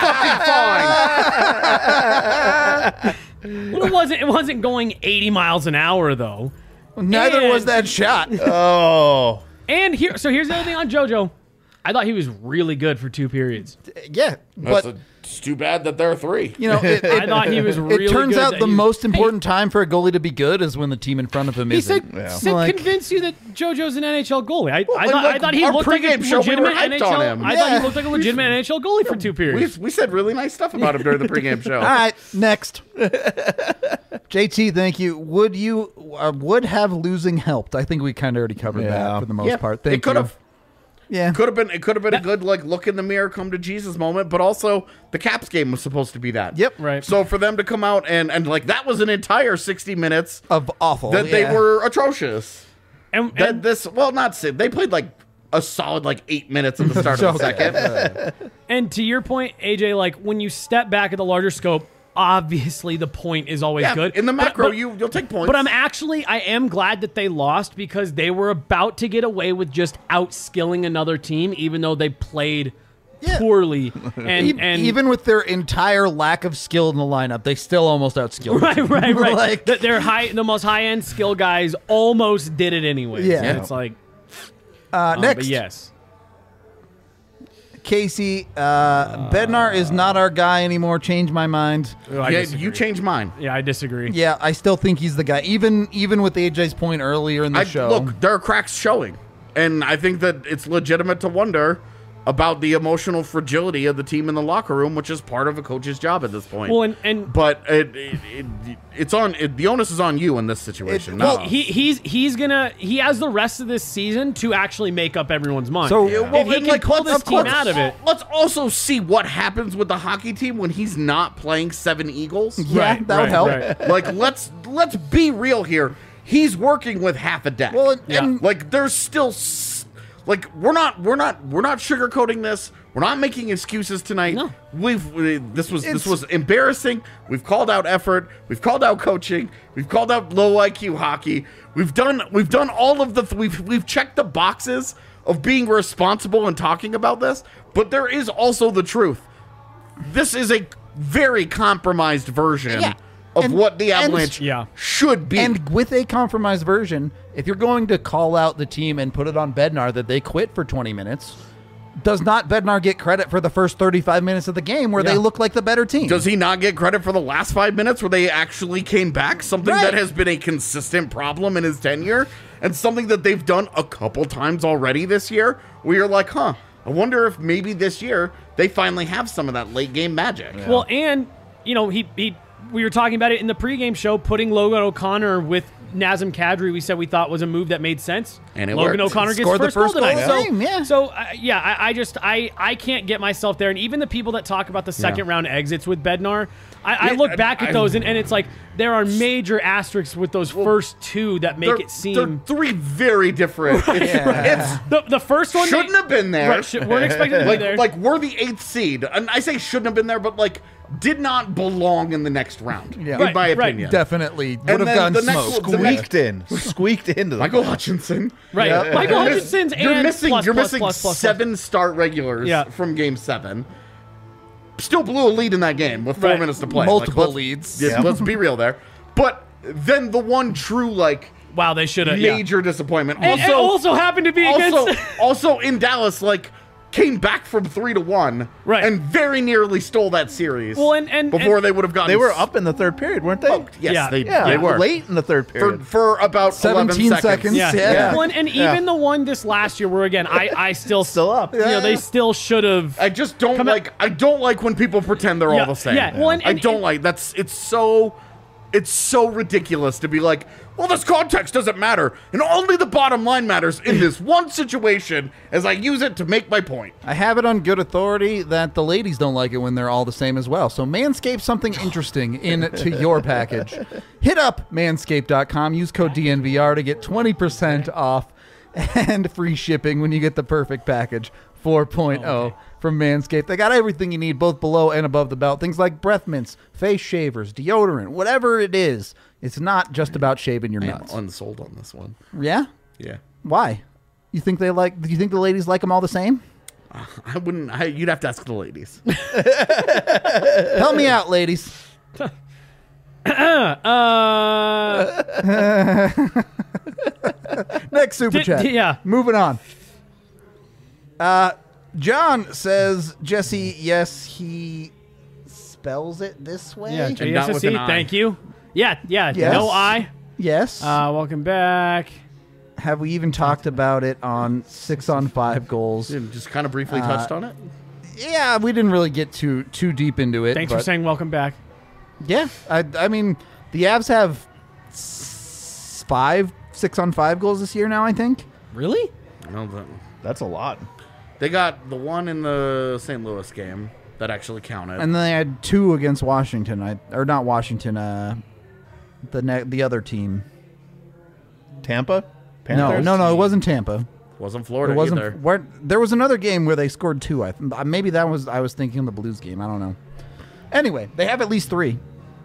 that a fucking fine? well, it wasn't. It wasn't going eighty miles an hour though. Neither And- was that shot. oh. And here, so here's the other thing on JoJo. I thought he was really good for two periods. Yeah, That's but a, it's too bad that there are three. you know, it, I it, thought he was really it turns good out that the he was- most important time for a goalie to be good is when the team in front of him He isn't. said, Yeah. said Like- convince you that JoJo's an N H L goalie. I, I, and thought, I like thought he our looked like a pregame show, we were legitimate hyped N H L. on him. I thought Yeah. he looked like a legitimate N H L goalie for two we, periods. we said really nice stuff about him during the pregame show. All right, next. J T, thank you. Would you uh, would have losing helped? I think we kind of already covered Yeah. that for the most Yeah, part. Thank it could you. have. Yeah. Could have been. It could have been a good like look in the mirror, come to Jesus moment. But also, the Caps game was supposed to be that. Yep. Right. So for them to come out and and like that was an entire sixty minutes Of awful. that yeah. they were atrocious. And, That and, this well not si- they played like a solid like eight minutes at the start of the Okay. second. and to your point, A J, like when you step back at the larger scope, obviously the point is always Yeah, good. in the But- macro, but- you you'll take points. But I'm actually, I am glad that they lost because they were about to get away with just outskilling another team, even though they played Yeah. poorly. And, E- and even with their entire lack of skill in the lineup, they still almost outskilled. right, right, right. Like- That their high, the most high end skill guys almost did it anyway. Yeah. And it's like Uh, um, next, But yes, Casey, uh, Bednar is not our guy anymore. Change my mind. Oh, I yeah, disagree. you changed mine. Yeah, I disagree. Yeah, I still think he's the guy. Even even with A J's point earlier in the I, show. Look, there are cracks showing, and I think that it's legitimate to wonder about the emotional fragility of the team in the locker room, which is part of a coach's job at this point. Well, and, and but it, it, it it's on it, the onus is on you in this situation. It- not well, us. he he's he's gonna he has the rest of this season to actually make up everyone's mind. So- if Well, he and, can like, pull let's- this team let's- out of it, Let's also see what happens with the hockey team when he's not playing seven Eagles. yeah, Right, that would right, help. right. Like let's let's be real here. He's working with half a deck. Well, and- Yeah. and like there's still s- like we're not we're not we're not sugarcoating this. We're not making excuses tonight. No. We've we, this was It's- this was embarrassing. We've called out effort. We've called out coaching. We've called out low I Q hockey. We've done we've done all of the th- we've we've checked the boxes of being responsible and talking about this. But there is also the truth. This is a very compromised version Yeah. of And- what the and- Avalanche Yeah. should be. And with a compromised version, if you're going to call out the team and put it on Bednar that they quit for twenty minutes, does not Bednar get credit for the first thirty-five minutes of the game where they Yeah. look like the better team? Does he not get credit for the last five minutes where they actually came back? Something Right. that has been a consistent problem in his tenure and something that they've done a couple times already this year where you're like, huh, I wonder if maybe this year they finally have some of that late game magic. well, and you know he he we were talking about it in the pregame show, putting Logan O'Connor with Nazem Kadri. We said we thought was a move that made sense. And it Logan worked. O'Connor gets Scored the first, first goal goal tonight. of the So game, yeah. so uh, yeah, I, I just I I can't get myself there. And even the people that talk about the second round exits with Bednar, I, I Yeah, look back I- at those and, and it's like there are major asterisks with those first two that make They're, it they're seem. three very different. It's, it's- The, the first one shouldn't they, have been there. Right, should, weren't expected to be like, there. like we're the eighth seed, and I say shouldn't have been there, but like did not belong in the next round, Yeah. in Right, my right. opinion. Definitely would And have then gone the next smoke. one- the next- Squeaked in, squeaked into the Michael Hutchinson, right, Yeah. Michael You're miss- Hutchinson's You're and missing. plus, you're plus, missing plus, plus, plus. seven start regulars Yeah. from Game Seven. Still blew a lead in that game with four Right. minutes to play. Multiple let's- leads. yeah, Yeah. Let's be real there. But then the one true like Wow, they should have. Yeah. major disappointment. And, and Also, also happened to be also, against. also in Dallas, like came back from three to one, Right. and very nearly stole that series. Well, and- and- before and- they would have gotten, They were s- up in the third period, weren't they? Oh, yes, Yeah. they, yeah, they were late in the third for, period. for about seventeen eleven seconds. Yeah. Yeah. Well, and, and Yeah. even the one this last year, where again, I, I still, Still up. You know, they Yeah. still should have. I just don't Come out- like. I don't like when people pretend they're Yeah, all the same. yeah, well, and- I and- don't and- like that's. It's so. It's so ridiculous to be like, well, this context doesn't matter, and only the bottom line matters in this one situation as I use it to make my point. I have it on good authority that the ladies don't like it when they're all the same as well. So Manscaped something interesting into your package. Hit up manscaped dot com. Use code D N V R to get twenty percent off and free shipping when you get the perfect package four point oh from Manscaped. They got everything you need both below and above the belt. Things like breath mints, face shavers, deodorant, whatever it is. It's not just about shaving your I'm nuts. unsold on this one. Yeah? Yeah, Why? You think they like do you think the ladies like them all the same? I wouldn't. I, you'd have to ask the ladies. Help me out, ladies. Uh, Next super Did- chat. yeah. Moving on. Uh, John says, Jesse, yes, he spells it this way. Yeah, not J S S with C, an I. thank you. Yeah, yeah, Yes. no I. Yes. Uh, welcome back. Have we even talked about it on six on five goals? You just kind of briefly Uh, touched on it. Yeah, we didn't really get too too deep into it. Thanks but for saying welcome back. Yeah, I, I mean, the Avs have s- five six on five goals this year now, I think. Really? No, the- That's a lot. they got the one in the Saint Louis game that actually counted. And then they had two against Washington, I, or not Washington, uh, the ne- the other team. Tampa? No, Panthers? no, no, it wasn't Tampa. wasn't Florida It wasn't. either. Where, there was another game where they scored two. I th- maybe that was I was thinking of the Blues game. I don't know. Anyway, they have at least three.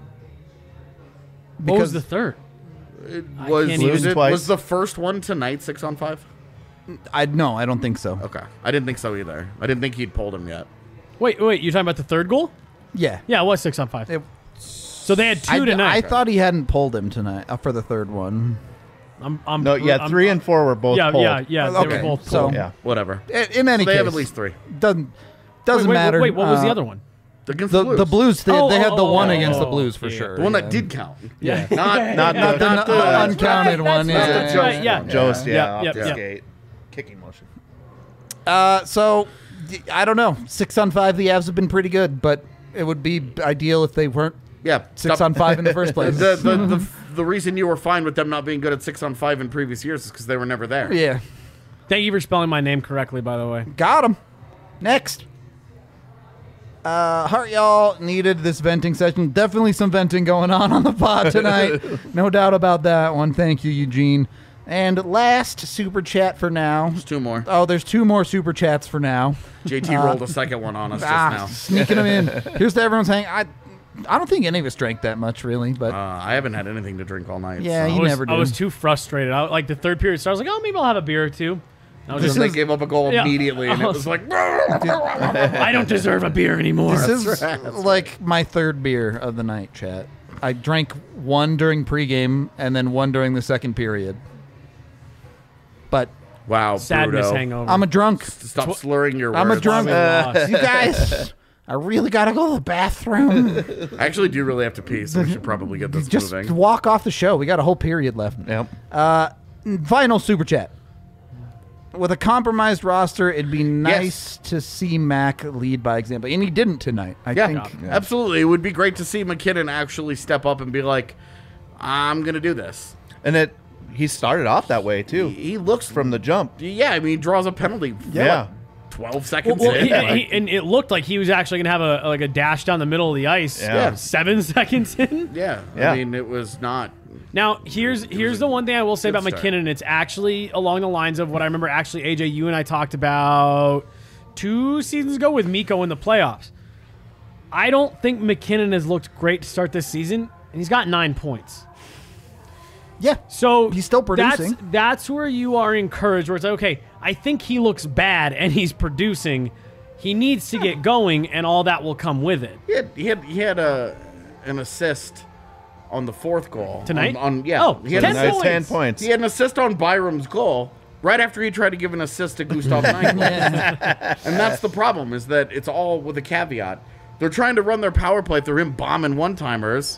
What was the third? It I was, can't was, even- it, Twice. was the first one tonight six on five? I no, I don't think so. Okay. I didn't think so either. I didn't think he'd pulled him yet. Wait, wait, you're talking about the third goal? Yeah, Yeah, it was six on five. It- so they had two I, tonight. I thought he hadn't pulled him tonight uh, for the third one. I'm, I'm, No, yeah, I'm- three and four were both yeah, pulled. yeah, yeah. They Okay, were both so- pulled. Yeah. Whatever. In, in any So they case, have at least three. doesn't Wait, doesn't wait, matter. Wait, what was the Uh, other one? Against The the Blues. the Blues. They, Oh, they had the oh, one oh, against the oh, Blues for yeah. sure. The one that yeah. did count. Yeah. Not, Not Not the, not the the uncounted one. That's yeah. right, that's right, yeah. Jost, yeah, Yeah, off yeah, the yeah. skate. Kicking motion. Uh, so y- I don't know. Six on five, the Avs have been pretty good, but it would be ideal if they weren't Yeah. six stop- on five in the first place. the, the, the, the reason you were fine with them not being good at six on five in previous years is because they were never there. Yeah, Thank you for spelling my name correctly, by the way. got him. Next. Uh, Heart Y'all needed this venting session. Definitely some venting going on on the pod tonight. No doubt about that one. Thank you, Eugene. And last super chat for now. There's two more. Oh, there's two more super chats for now. J T rolled a second one on us just Ah, now. sneaking them in. Here's to everyone saying, I, I don't think any of us drank that much, really, but Uh, I haven't had anything to drink all night. Yeah, so. you I was, never do. I was too frustrated. I, like the third period started, I was like, oh, maybe I'll have a beer or two. I was And just they like, gave up a goal Yeah. immediately, and it was like, I don't deserve a beer anymore. This is like my third beer of the night, chat. I drank one during pregame and then one during the second period. But wow, Sadness Bruto. hangover. I'm a drunk. Stop slurring your I'm a words. drunk. Why we lost. You guys, I really gotta go to the bathroom. I actually do really have to pee, so we should probably get this Just moving. walk off the show. We got a whole period left. Yep. Uh, final super chat. With a compromised roster, it'd be nice to see Mac lead by example, and he didn't tonight. I Yeah, think. absolutely. It would be great to see McKinnon actually step up and be like, I'm going to do this. And it he started off that way too. He looks From the jump. Yeah, I mean, he draws a penalty. Yeah. twelve Well, seconds well, in. he, like- he, and it looked like he was actually gonna have a like a dash down the middle of the ice. Yeah. Yeah. Seven seconds in. yeah, Yeah. I mean, it was not. Now here's here's the one thing I will say good about start. McKinnon. It's actually along the lines of what I remember. Actually, A J, you and I talked about two seasons ago with Miko in the playoffs. I don't think McKinnon has looked great to start this season, and he's got nine points. Yeah. So He's still producing. That's, that's where you are encouraged. Where it's like, okay, I think he looks bad and he's producing. He needs to get going, and all that will come with it. He had he had, he had a an assist on the fourth goal Tonight? On, on yeah, Oh, he had ten an Nice assist, ten points. He had an assist on Byram's goal right after he tried to give an assist to Gustav Nyquist. And that's the problem, is that it's all with a caveat. They're trying to run their power play through him bombing one-timers,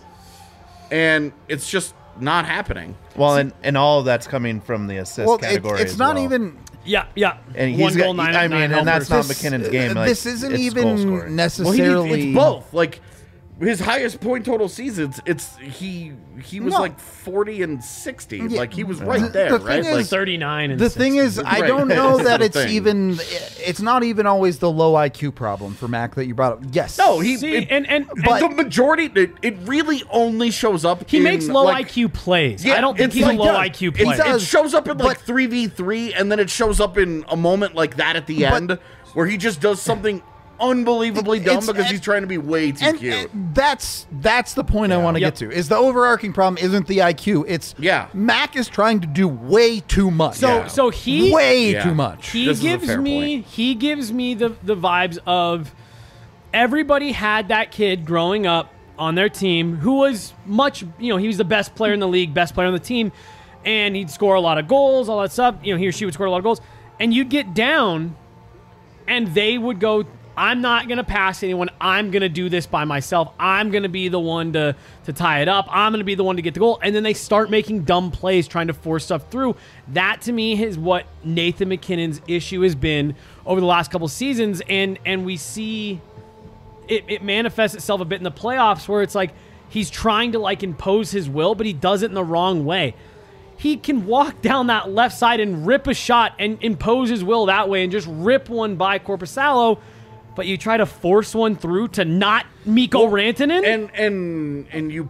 and it's just not happening. Well, and, and all of that's coming from the assist Well, it, category. it's as not well. even. Yeah, yeah. And he's one got, goal, nine. I mean, nine and that's helpers. not McKinnon's game. Like, this isn't it's goal even scoring. Well, he, necessarily. it's both. Like his highest point total seasons, it's he he was No. like forty and sixty. Yeah. Like he was The- right there, the thing right? is- Like, thirty-nine. And The thing is, I Right. don't know That's that the it's thing. even. It's not even always the low I Q problem for Mac that you brought up. Yes. no, he See, it- and and, but- the majority. It, it really only shows up. he in, makes low like, I Q plays. Yeah, I don't think it's he's like a low does. I Q It player. does. It shows up in like But- three v three, and then it shows up in a moment like that at the But- end where he just does something unbelievably dumb It's- because and- he's trying to be way too And, cute. and that's that's the point I want to Yep. get to. Is the overarching problem isn't the I Q? It's Yeah. Mac is trying to do way too much. so Yeah. so he way Yeah. too much. He This is a gives fair me point. he gives me the the vibes of everybody had that kid growing up on their team who was much, you know, he was the best player in the league, best player on the team, and he'd score a lot of goals, all that stuff. You know, he or she would score a lot of goals, and you'd get down, and they would go, I'm not going to pass anyone. I'm going to do this by myself. I'm going to be the one to, to tie it up. I'm going to be the one to get the goal. And then they start making dumb plays trying to force stuff through. That, to me, is what Nathan MacKinnon's issue has been over the last couple seasons. And and we see it, it manifests itself a bit in the playoffs where it's like he's trying to like impose his will, but he does it in the wrong way. He can walk down that left side and rip a shot and impose his will that way and just rip one by Korpisalo. But you try to force one through to not Mikko Well, Rantanen? and and and you.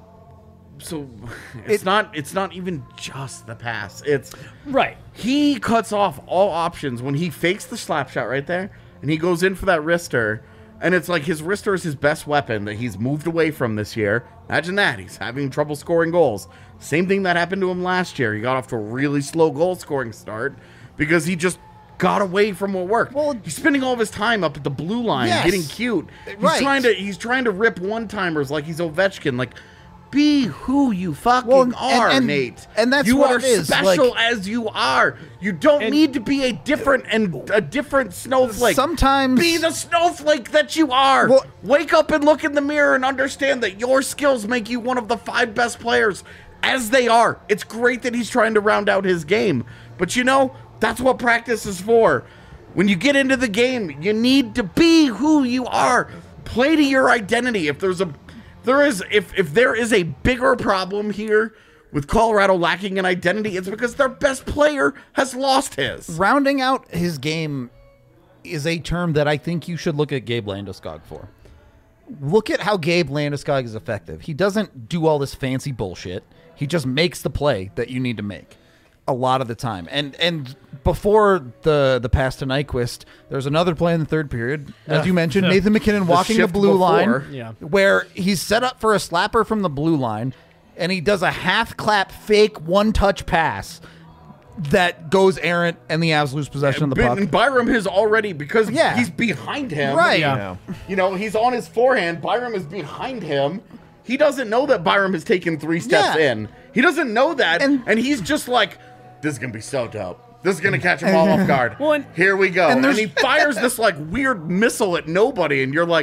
So it's It- not it's not even just the pass. It's Right. he cuts off all options when he fakes the slap shot right there, and he goes in for that wrister. And it's like his wrister is his best weapon that he's moved away from this year. Imagine that. He's having trouble scoring goals. Same thing that happened to him last year. He got off to a really slow goal scoring start because he just got away from what worked. Well, he's spending all of his time up at the blue line, Yes. getting cute. He's Right. trying to he's trying to rip one-timers like he's Ovechkin. Like, be who you fucking Well, and- are, and- Nate. and that's you what are it is, special like- as you are. You don't And- need to be a different and a different snowflake. Sometimes- be the snowflake that you are. Well- Wake up and look in the mirror and understand that your skills make you one of the five best players, as they are. It's great that he's trying to round out his game, but you know that's what practice is for. When you get into the game, you need to be who you are. Play to your identity. If there's a there is if if there is a bigger problem here with Colorado lacking an identity, it's because their best player has lost his. Rounding out his game is a term that I think you should look at Gabe Landeskog for. Look at how Gabe Landeskog is effective. He doesn't do all this fancy bullshit. He just makes the play that you need to make a lot of the time. And and before the the pass to Nyquist, there's another play in the third period. As you mentioned, Nathan MacKinnon walking the shift blue before. line, Yeah. where he's set up for a slapper from the blue line, and he does a half clap fake one touch pass that goes errant, and the Avs lose possession of the puck. And Byram has already, because Yeah. he's behind him. Right. Yeah. You know, he's on his forehand. Byram is behind him. He doesn't know that Byram has taken three steps Yeah. in. He doesn't know that. And- And, he's just like, this is going to be so dope. This is going to catch him all off guard. Well, and- Here we go. and And, there's- he fires this like weird missile at nobody. And you're like,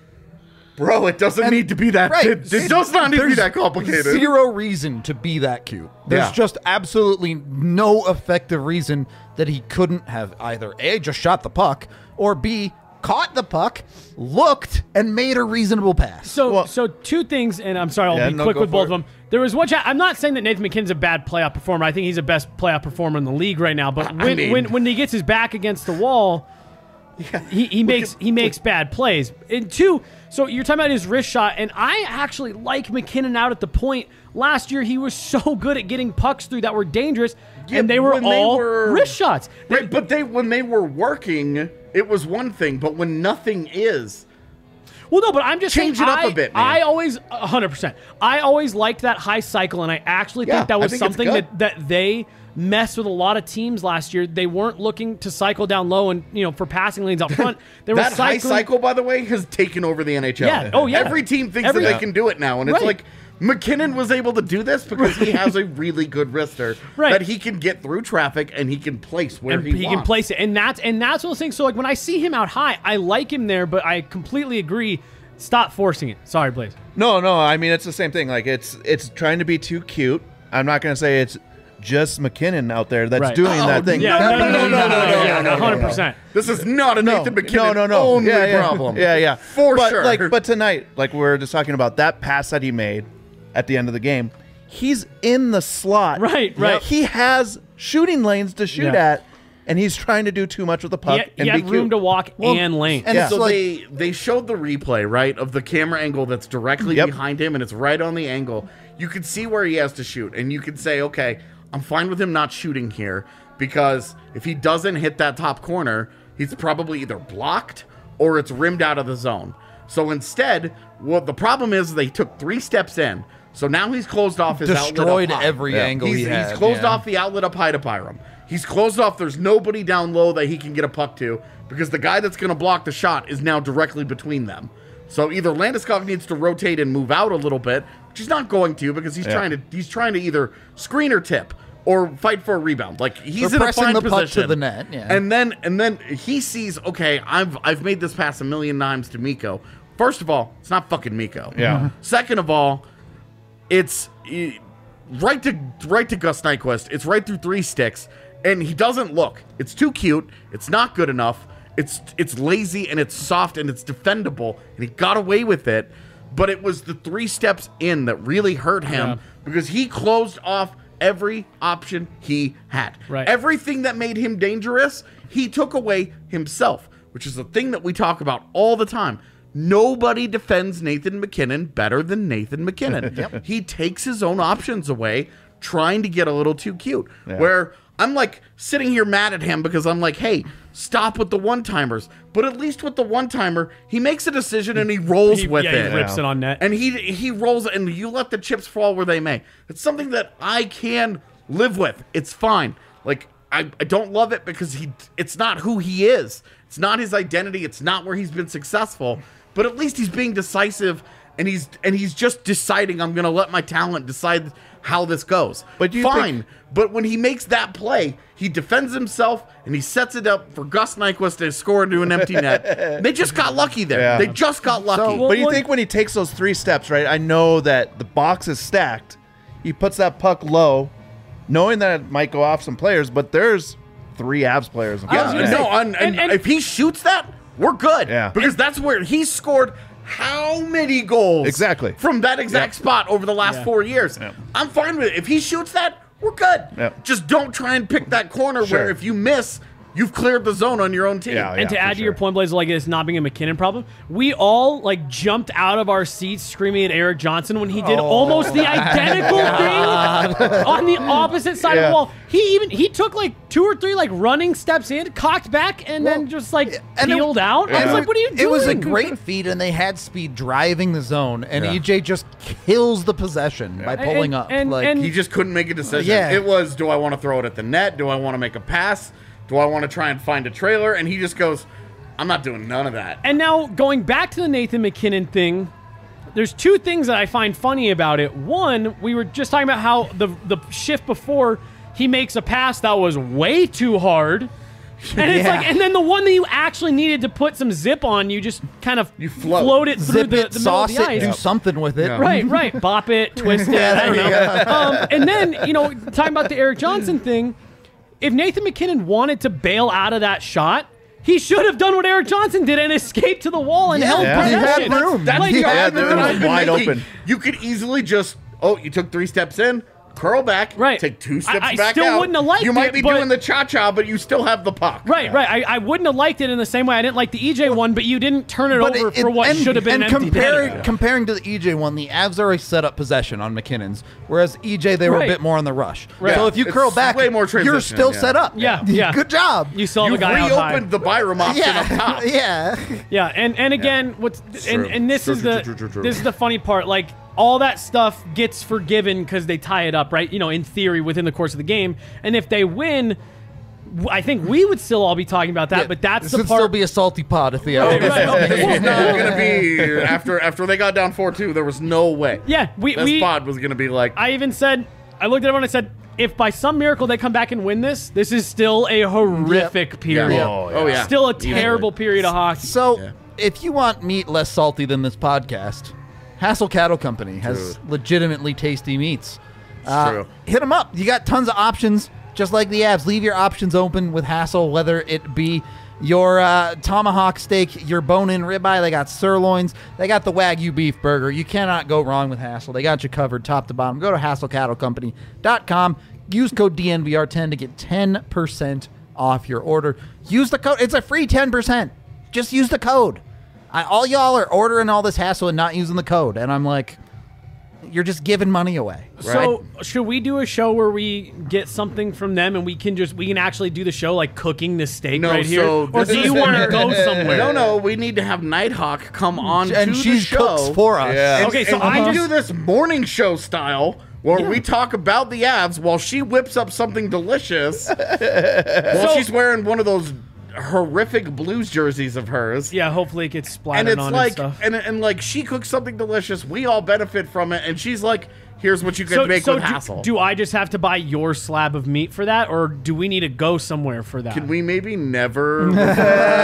bro, it doesn't And- need to be that. right. It, it does not need to be There's that complicated. Zero reason to be that cute. There's Yeah. just absolutely no effective reason that he couldn't have either A, just shot the puck, or B, caught the puck, looked, and made a reasonable pass. So, Well- so two things, and I'm sorry, I'll Yeah, be no, quick go with for both of it. them. There was one chat. I'm not saying that Nathan MacKinnon's a bad playoff performer. I think he's the best playoff performer in the league right now. But I when mean- when, when he gets his back against the wall, he, he makes he makes bad plays. And two, so you're talking about his wrist shot, and I actually like MacKinnon out at the point. Last year, he was so good at getting pucks through that were dangerous, Yeah, and they were when they all were- wrist shots. They- Right, but they when they were working, it was one thing. But when nothing is, Well, no, but I'm just Change saying, it up I, a bit, man. I always, one hundred percent. I always liked that high cycle, and I actually Yeah, think that I was think it's something good. that, that they messed with a lot of teams last year. They weren't looking to cycle down low and, you know, for passing lanes up front. They were that high cycling. cycle, by the way, has taken over the N H L. Yeah, oh, yeah. Every team thinks Every- that they can do it now, and it's Right. like MacKinnon was able to do this because he has a really good wrister Right. that he can get through traffic and he can place where And he, he, can wants. place it, and that's and that's one of those things. So like when I see him out high, I like him there, but I completely agree. Stop forcing it. Sorry, Blaze. No, no. I mean, it's the same thing. Like it's it's trying to be too cute. I'm not gonna say it's just McKinnon out there that's Right. doing Oh, that thing. Yeah, no, no, no, no, no, no, one hundred percent. This is not a No, Nathan MacKinnon no, no, no. only yeah, yeah. problem. Yeah, yeah, For but, sure. Like, but tonight, like we we're just talking about that pass that he made at the end of the game. He's in the slot. Right, right. He has shooting lanes to shoot Yeah. at, and he's trying to do too much with the He, puck had- and he be had room cute. to walk and lane. and Yeah. it's So like, they they showed the replay, right, of the camera angle that's directly Yep. behind him, and it's right on the angle. You can see where he has to shoot, and you can say, okay, I'm fine with him not shooting here because if he doesn't hit that top corner, he's probably either blocked or it's rimmed out of the zone. So instead, what the problem is, they took three steps in. So now he's closed off his destroyed outlet up high. every Yeah. angle He's, he had. he's closed yeah. off the outlet up high to Byram. He's closed off. There's nobody down low that he can get a puck to because the guy that's going to block the shot is now directly between them. So either Landeskog needs to rotate and move out a little bit, which he's not going to because he's Yeah. trying to he's trying to either screen or tip. or fight for a rebound. Like he's Or in a pressing fine the puck position to the net, yeah. And then and then he sees, okay, I've I've made this pass a million times to Mikko. First of all, it's not fucking Mikko. Yeah. Second of all, it's eh, right to right to Gus Nyquist. It's right through three sticks, and he doesn't look. It's too cute. It's not good enough. It's it's lazy and it's soft and it's defendable, and he got away with it. But it was the three steps in that really hurt him Yeah. because he closed off every option he had. Right. Everything that made him dangerous, he took away himself, which is the thing that we talk about all the time. Nobody defends Nathan MacKinnon better than Nathan MacKinnon. He takes his own options away, trying to get a little too cute. Yeah. Where I'm like sitting here mad at him because I'm like, hey, stop with the one-timers. But at least with the one-timer, he makes a decision and he rolls He, with yeah, it. he rips it on net. And he he rolls and you let the chips fall where they may. It's something that I can live with. It's fine. Like I, I don't love it because he it's not who he is. It's not his identity. It's not where he's been successful. But at least he's being decisive and he's and he's just deciding I'm gonna let my talent decide how this goes. But do you fine. think- But when he makes that play, he defends himself and he sets it up for Gus Nyquist to score into an empty net. They just got lucky there. Yeah. They just got lucky. well- But you well- think when he takes those three steps, right? I know that the box is stacked. He puts that puck low, knowing that it might go off some players, but there's three Avs players. in I was front Yeah, of gonna him. no, say- and, and, and- and- if he shoots that, we're good. Yeah. Because that's where he scored how many goals Exactly. from that exact Yep. spot over the last Yeah. four years. Yep. I'm fine with it. If he shoots that, we're good. Yep. Just don't try and pick that corner Sure. where if you miss, you've cleared the zone on your own team. Yeah, And to for add to your sure. point, Blaze, like it's not being a McKinnon problem. We all like jumped out of our seats screaming at Eric Johnson when he did almost the identical thing on the opposite side of Yeah. the wall. He even he took like two or three like running steps in, cocked back, and then just like and it- peeled out. I was Yeah. like, "What are you doing?" It was a great feat, and they had speed driving the zone, and Yeah. E J just kills the possession by pulling And- up. and- like, and- He just couldn't make a decision. Yeah. It was, do I want to throw it at the net? Do I want to make a pass? Do I want to try and find a trailer? And he just goes, I'm not doing none of that. And now going back to the Nathan McKinnon thing, there's two things that I find funny about it. One, we were just talking about how the the shift before he makes a pass that was way too hard. And it's Yeah. like, and then the one that you actually needed to put some zip on, you just kind of You float. float it through zip the, it, the middle of sauce the it, ice. do something with it. Yeah. Right, right. Bop it, twist it. I don't know. Um, and then, you know, talking about the Eric Johnson thing, if Nathan McKinnon wanted to bail out of that shot, he should have done what Eric Johnson did and escaped to the wall and Yeah, held yeah. he had possession. room. That's Like, the Yeah, argument there that was I've been wide making. open. You could easily just, oh, you took three steps in, curl back, Right. take two steps I- I back still out. wouldn't have liked You might it, be but- doing the cha-cha, but you still have the puck. Right, right. I, I wouldn't have liked it in the same way I didn't like the E J one, but you didn't turn it But over it- for it- what and- should have been and an empty comparing, net. comparing to the E J one, the Avs already set up possession on McKinnon's, whereas E J they were Right. a bit more on the rush. Right. So if you It's curl back, way more you're transition, still yeah. set up. Yeah, yeah. Good job. You saw You the guy out high. reopened the Byram option up yeah, top. yeah. Yeah, and and again, what's and, true. and this True, is true, the true, true, true. this is the funny part. Like all that stuff gets forgiven because they tie it up, right? You know, in theory, within the course of the game. And if they win, w- I think we would still all be talking about that. but that's this the would part. still be a salty pod at the Right, end. right. This was not going to be after after they got down four two. There was no way. yeah, we This we. pod was going to be like, I even said, I looked at everyone and I said, if by some miracle they come back and win this, this is still a horrific yeah. period. Oh, oh, yeah. Still a terrible period of hockey. So, Yeah. if you want meat less salty than this podcast, Hassel Cattle Company has Dude. legitimately tasty meats. Uh, true. Hit them up. You got tons of options, just like the Avs. Leave your options open with Hassel, whether it be your uh, tomahawk steak, your bone-in ribeye. They got sirloins. They got the Wagyu beef burger. You cannot go wrong with Hassel. They got you covered top to bottom. Go to hassel cattle company dot com. Use code D N V R ten to get ten percent off your order. Use the code. It's a free ten percent. Just use the code. I, all y'all are ordering all this hassle and not using the code. And I'm like, you're just giving money away. So should we do a show where we get something from them and we can just we can actually do the show like cooking the steak no, right here? so Or this do is- you want to go somewhere? No, no, we need to have Nighthawk come on And to she the show. cooks for us. Yeah. And, Okay, so and I we just- do this morning show style where we talk about the Avs while she whips up something delicious while So- she's wearing one of those horrific Blues jerseys of hers. Yeah, hopefully it gets splattered And it's on like, and stuff. and, and like she cooks something delicious. We all benefit from it. And she's like, here's what you can make with do, Hassel. do I just have to buy your slab of meat for that, or do we need to go somewhere for that? Can we maybe never refer to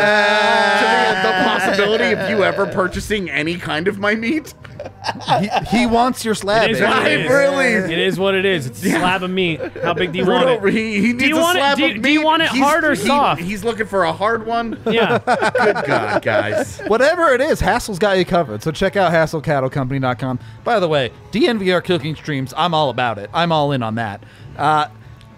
the, the possibility of you ever purchasing any kind of my meat? he, he wants your slab. It is baby. what it I is. really- It is what it is. It's a slab of meat. How big do you want Bruno, it? he, he needs you a want it- slab do of you- meat. do you want it He's- hard or he- soft? He's looking for a hard one. Yeah. Good God, guys. Whatever it is, Hassel's got you covered. So check out hassel cattle company dot com. By the way, D N V R cooking streams, I'm all about it. I'm all in on that. Uh,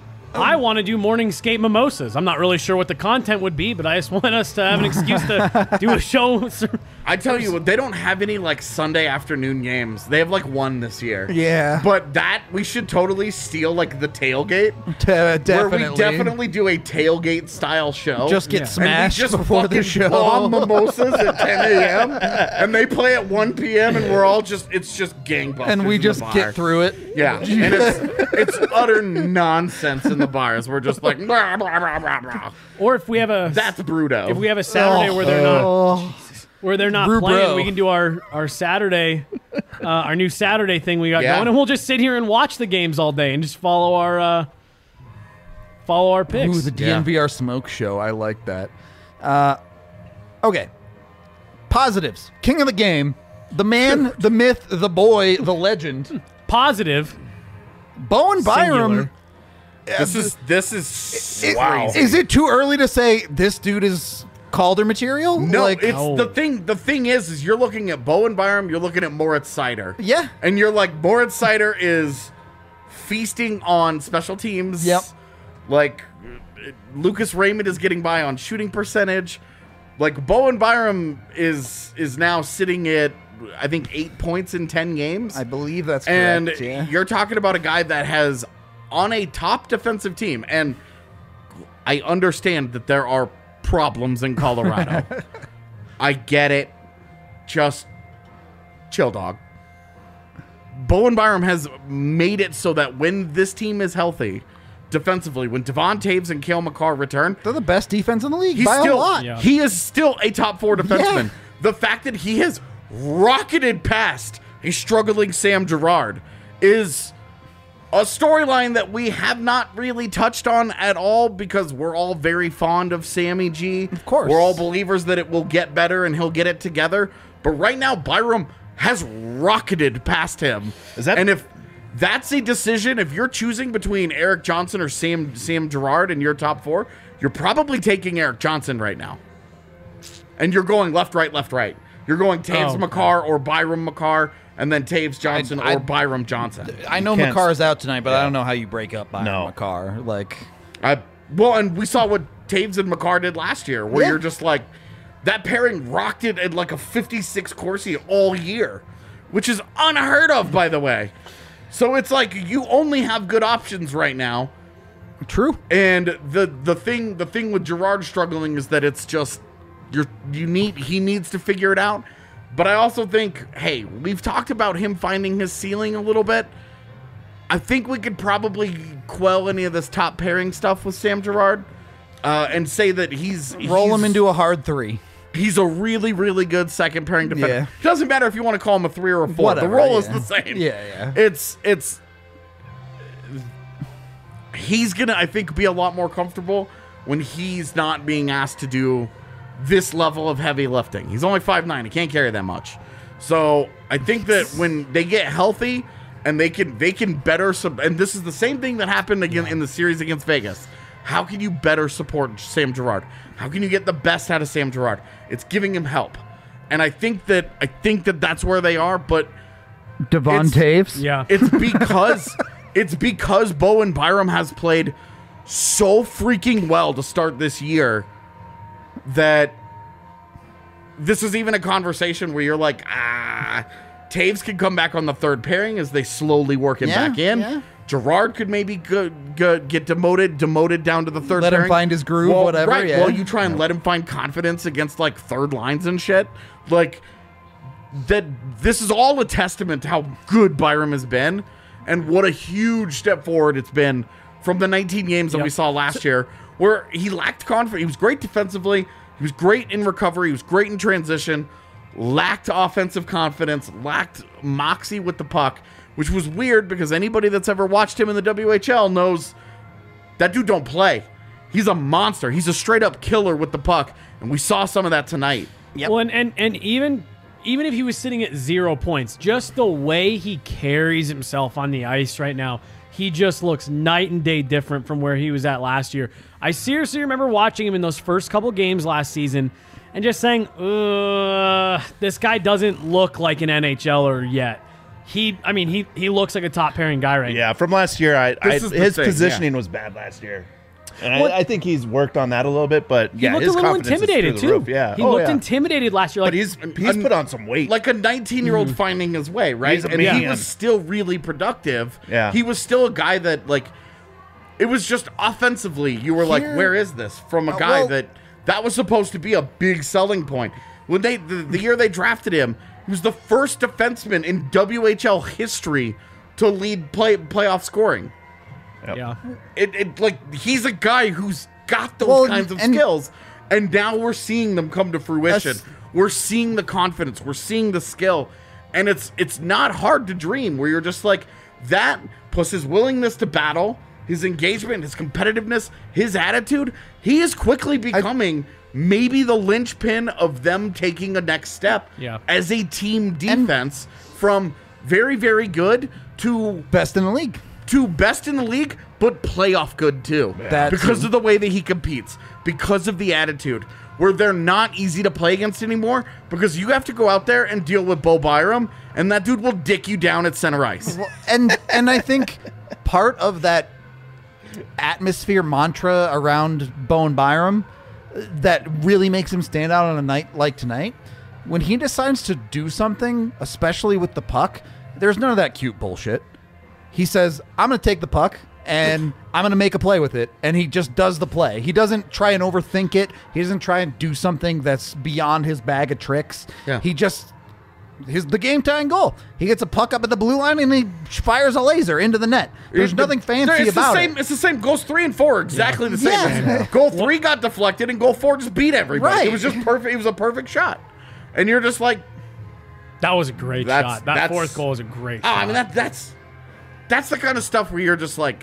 I want to do morning skate mimosas. I'm not really sure what the content would be, but I just want us to have an excuse to do a show. I tell you what, they don't have any like Sunday afternoon games. They have like one this year. Yeah. But that we should totally steal like the tailgate. t- uh, definitely. Where we definitely do a tailgate style show. Just get Yeah. smashed and we just before the fucking show. bomb mimosas at ten a.m. and they play at one p.m. and we're all just it's just gangbusters. and we in the just bar. get through it. Yeah, and it's it's utter nonsense in the bars. We're just like blah, blah, blah, blah, blah. Or if we have a That's Bruto. if we have a Saturday where they're not Oh, where they're not Brew playing, bro. we can do our our Saturday, uh, our new Saturday thing we got Yeah. going, and we'll just sit here and watch the games all day and just follow our uh, follow our picks. ooh, the D N V R smoke show. I like that. Uh, okay. Positives. King of the game. The man, the myth, the boy, the legend. Positive. Bowen Byram. Singular. this is this is It- crazy. Is it too early to say this dude is Calder material? No, like, it's No. the thing. The thing is, is you're looking at Bowen Byram, you're looking at Moritz Sider. Yeah. and you're like Moritz Sider is feasting on special teams. Yep. Like uh, Lucas Raymond is getting by on shooting percentage. Like Bowen Byram is is now sitting at I think eight points in ten games. I believe that's correct. and yeah. you're talking about a guy that has on a top defensive team, and I understand that there are problems in Colorado. I get it. Just chill, dog. Bowen Byram has made it so that when this team is healthy, defensively, when Devon Taves and Cale McCarr return, They're the best defense in the league he's by still a lot. Yeah. he is still a top four defenseman. Yeah. The fact that he has rocketed past a struggling Sam Girard is a storyline that we have not really touched on at all because we're all very fond of Sammy G. Of course. We're all believers that it will get better and he'll get it together. But right now, Byram has rocketed past him. Is that- and if that's a decision, if you're choosing between Eric Johnson or Sam Sam Girard in your top four, you're probably taking Eric Johnson right now. And you're going left, right, left, right. You're going Taves Oh. McCarr or Byram McCarr, and then Taves Johnson I- or Byram Johnson. I know can't- McCarr's out tonight, but I don't know how you break up Byron No. McCarr. Like, I, well, and we saw what Taves and McCarr did last year, where Yeah. you're just like, that pairing rocked it at like a fifty-six Corsi all year, which is unheard of, by the way. So it's like you only have good options right now. true. And the the thing the thing with Girard struggling is that it's just you're you need he needs to figure it out. But I also think, hey, we've talked about him finding his ceiling a little bit. I think we could probably quell any of this top pairing stuff with Sam Girard uh, and say that he's Roll he's, him into a hard three. He's a really really good second pairing defender. Yeah. It doesn't matter if you want to call him a three or a four. Whatever, the role is yeah. the same. Yeah, yeah. It's it's he's gonna I think be a lot more comfortable when he's not being asked to do this level of heavy lifting. He's only five nine, he can't carry that much. So I think that when they get healthy and they can they can better sub and this is the same thing that happened again in the series against Vegas. How can you better support Sam Girard? How can you get the best out of Sam Girard? It's giving him help. And I think that I think that that's where they are, but Devon It's- Taves. Yeah. it's because it's because Bowen Byram has played so freaking well to start this year that this is even a conversation where you're like, ah, Taves could come back on the third pairing as they slowly work him Yeah, back in. yeah. Gerard could maybe go, go, get demoted, demoted down to the third Let him pairing. find his groove, Well, whatever, Right. yeah. Well, you try and let him find confidence against like third lines and shit. Like that. This is all a testament to how good Byram has been, and what a huge step forward it's been from the nineteen games that Yep. we saw last year, where he lacked confidence. He was great defensively. He was great in recovery. He was great in transition. Lacked offensive confidence. Lacked moxie with the puck, which was weird because anybody that's ever watched him in the W H L knows that dude don't play. He's a monster. He's a straight up killer with the puck, and we saw some of that tonight. Yep. Well, and, and and even even if he was sitting at zero points, just the way he carries himself on the ice right now, he just looks night and day different from where he was at last year. I seriously remember watching him in those first couple games last season and just saying, Ugh, this guy doesn't look like an N H L er yet. He, I mean, he he looks like a top pairing guy right now. Yeah, from last year, I, I is the his thing, positioning yeah. was bad last year. And Well, I, I think he's worked on that a little bit, but He yeah, looked his a little confidence is intimidated through the too. roof. Yeah, He oh, looked yeah. intimidated last year. Like, But he's he's an- put on some weight. Like a nineteen-year-old finding his way, right? He's a And he man. was still really productive. Yeah. He was still a guy that, like, it was just offensively, you were like, Here- where is this? From a Uh, guy well- that, that was supposed to be a big selling point. When they, the, the year they drafted him, he was the first defenseman in W H L history to lead play playoff scoring. yeah. It, it like he's a guy who's got those Well, kinds of and- skills, and now we're seeing them come to fruition. That's- We're seeing the confidence, we're seeing the skill, and it's it's not hard to dream where you're just like that plus his willingness to battle, his engagement, his competitiveness, his attitude. He is quickly becoming maybe the linchpin of them taking a next step Yeah. as a team defense from very very good to Best in the league. to best in the league, but playoff good too. That because too. of the way that he competes, because of the attitude, where they're not easy to play against anymore, because you have to go out there and deal with Bo Byram, and that dude will dick you down at center ice. Well, and and I think part of that atmosphere mantra around Bowen Byram that really makes him stand out on a night like tonight, when he decides to do something, especially with the puck, there's none of that cute bullshit. He says, I'm going to take the puck and I'm going to make a play with it. And he just does the play. He doesn't try and overthink it. He doesn't try and do something that's beyond his bag of tricks. Yeah. He just, his the game tying goal. He gets a puck up at the blue line and he fires a laser into the net. There's nothing fancy it's about the same, it. It's the same. Goals three and four are exactly the same. Yeah. Goal three got deflected, and goal four just beat everybody. Right. It was just perfect. It was a perfect shot, and you're just like, That was a great That's- shot. That that's- fourth goal was a great oh, shot. I mean that that's that's the kind of stuff where you're just like,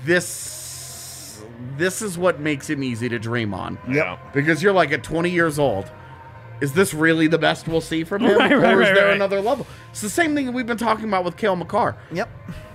this this is what makes him easy to dream on. Yep. Because you're like at twenty years old, is this really the best we'll see from him, Right, or right, is right, there right. another level? It's the same thing that we've been talking about with Cale Makar. Yep.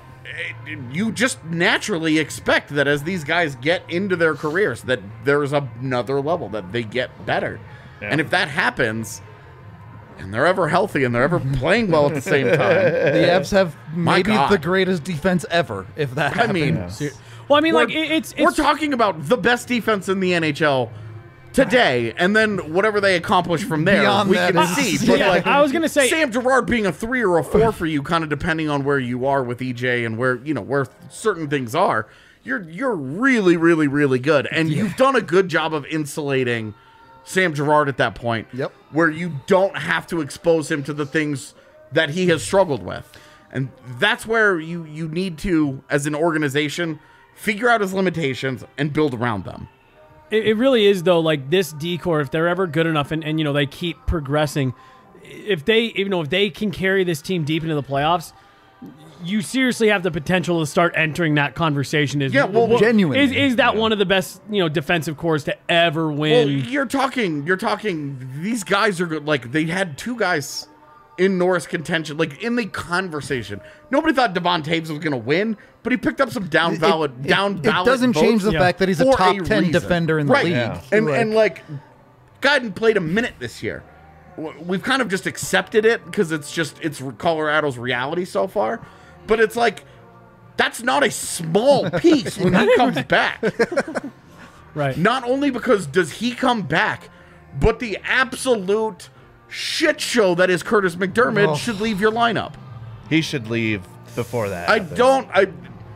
You just naturally expect that as these guys get into their careers, that there's another level, that they get better, Yeah. and if that happens, and they're ever healthy and they're ever playing well at the same time, The Avs have My maybe God. the greatest defense ever, if that I mean, happens. well, I mean, we're, like it, it's we're it's talking about the best defense in the N H L today, and then whatever they accomplish from there, Beyond we that can is- see. But yeah, like, I was gonna say Sam Girard being a three or a four for you, kind of depending on where you are with E J and where you know where certain things are. You're you're really really really good, and you've done a good job of insulating Sam Girard at that point. Yep. Where you don't have to expose him to the things that he has struggled with, and that's where you you need to, as an organization, figure out his limitations and build around them. It, it really is though. Like this decor, if they're ever good enough, and, and you know they keep progressing, if they you know if they can carry this team deep into the playoffs, you seriously have the potential to start entering that conversation. Is Yeah, well, what- genuinely. is is that one of the best you know defensive cores to ever Well, win? you're talking, you're talking. These guys are good. Like they had two guys in Norris contention, like in the conversation. Nobody thought Devon Taves was going to win, but he picked up some down It- ballot, it- down it ballot. doesn't change the Yeah. fact that he's a for top a ten reason. defender in the right. league. Yeah. And Like- and like, guy hadn't played a minute this year. W- We've kind of just accepted it because it's just it's Colorado's reality so far. But it's like that's not a small piece when he comes back. Right. Not only because does he come back, but the absolute shit show that is Curtis McDermott Oh. should leave your lineup. He should leave before that. I happens. don't. I.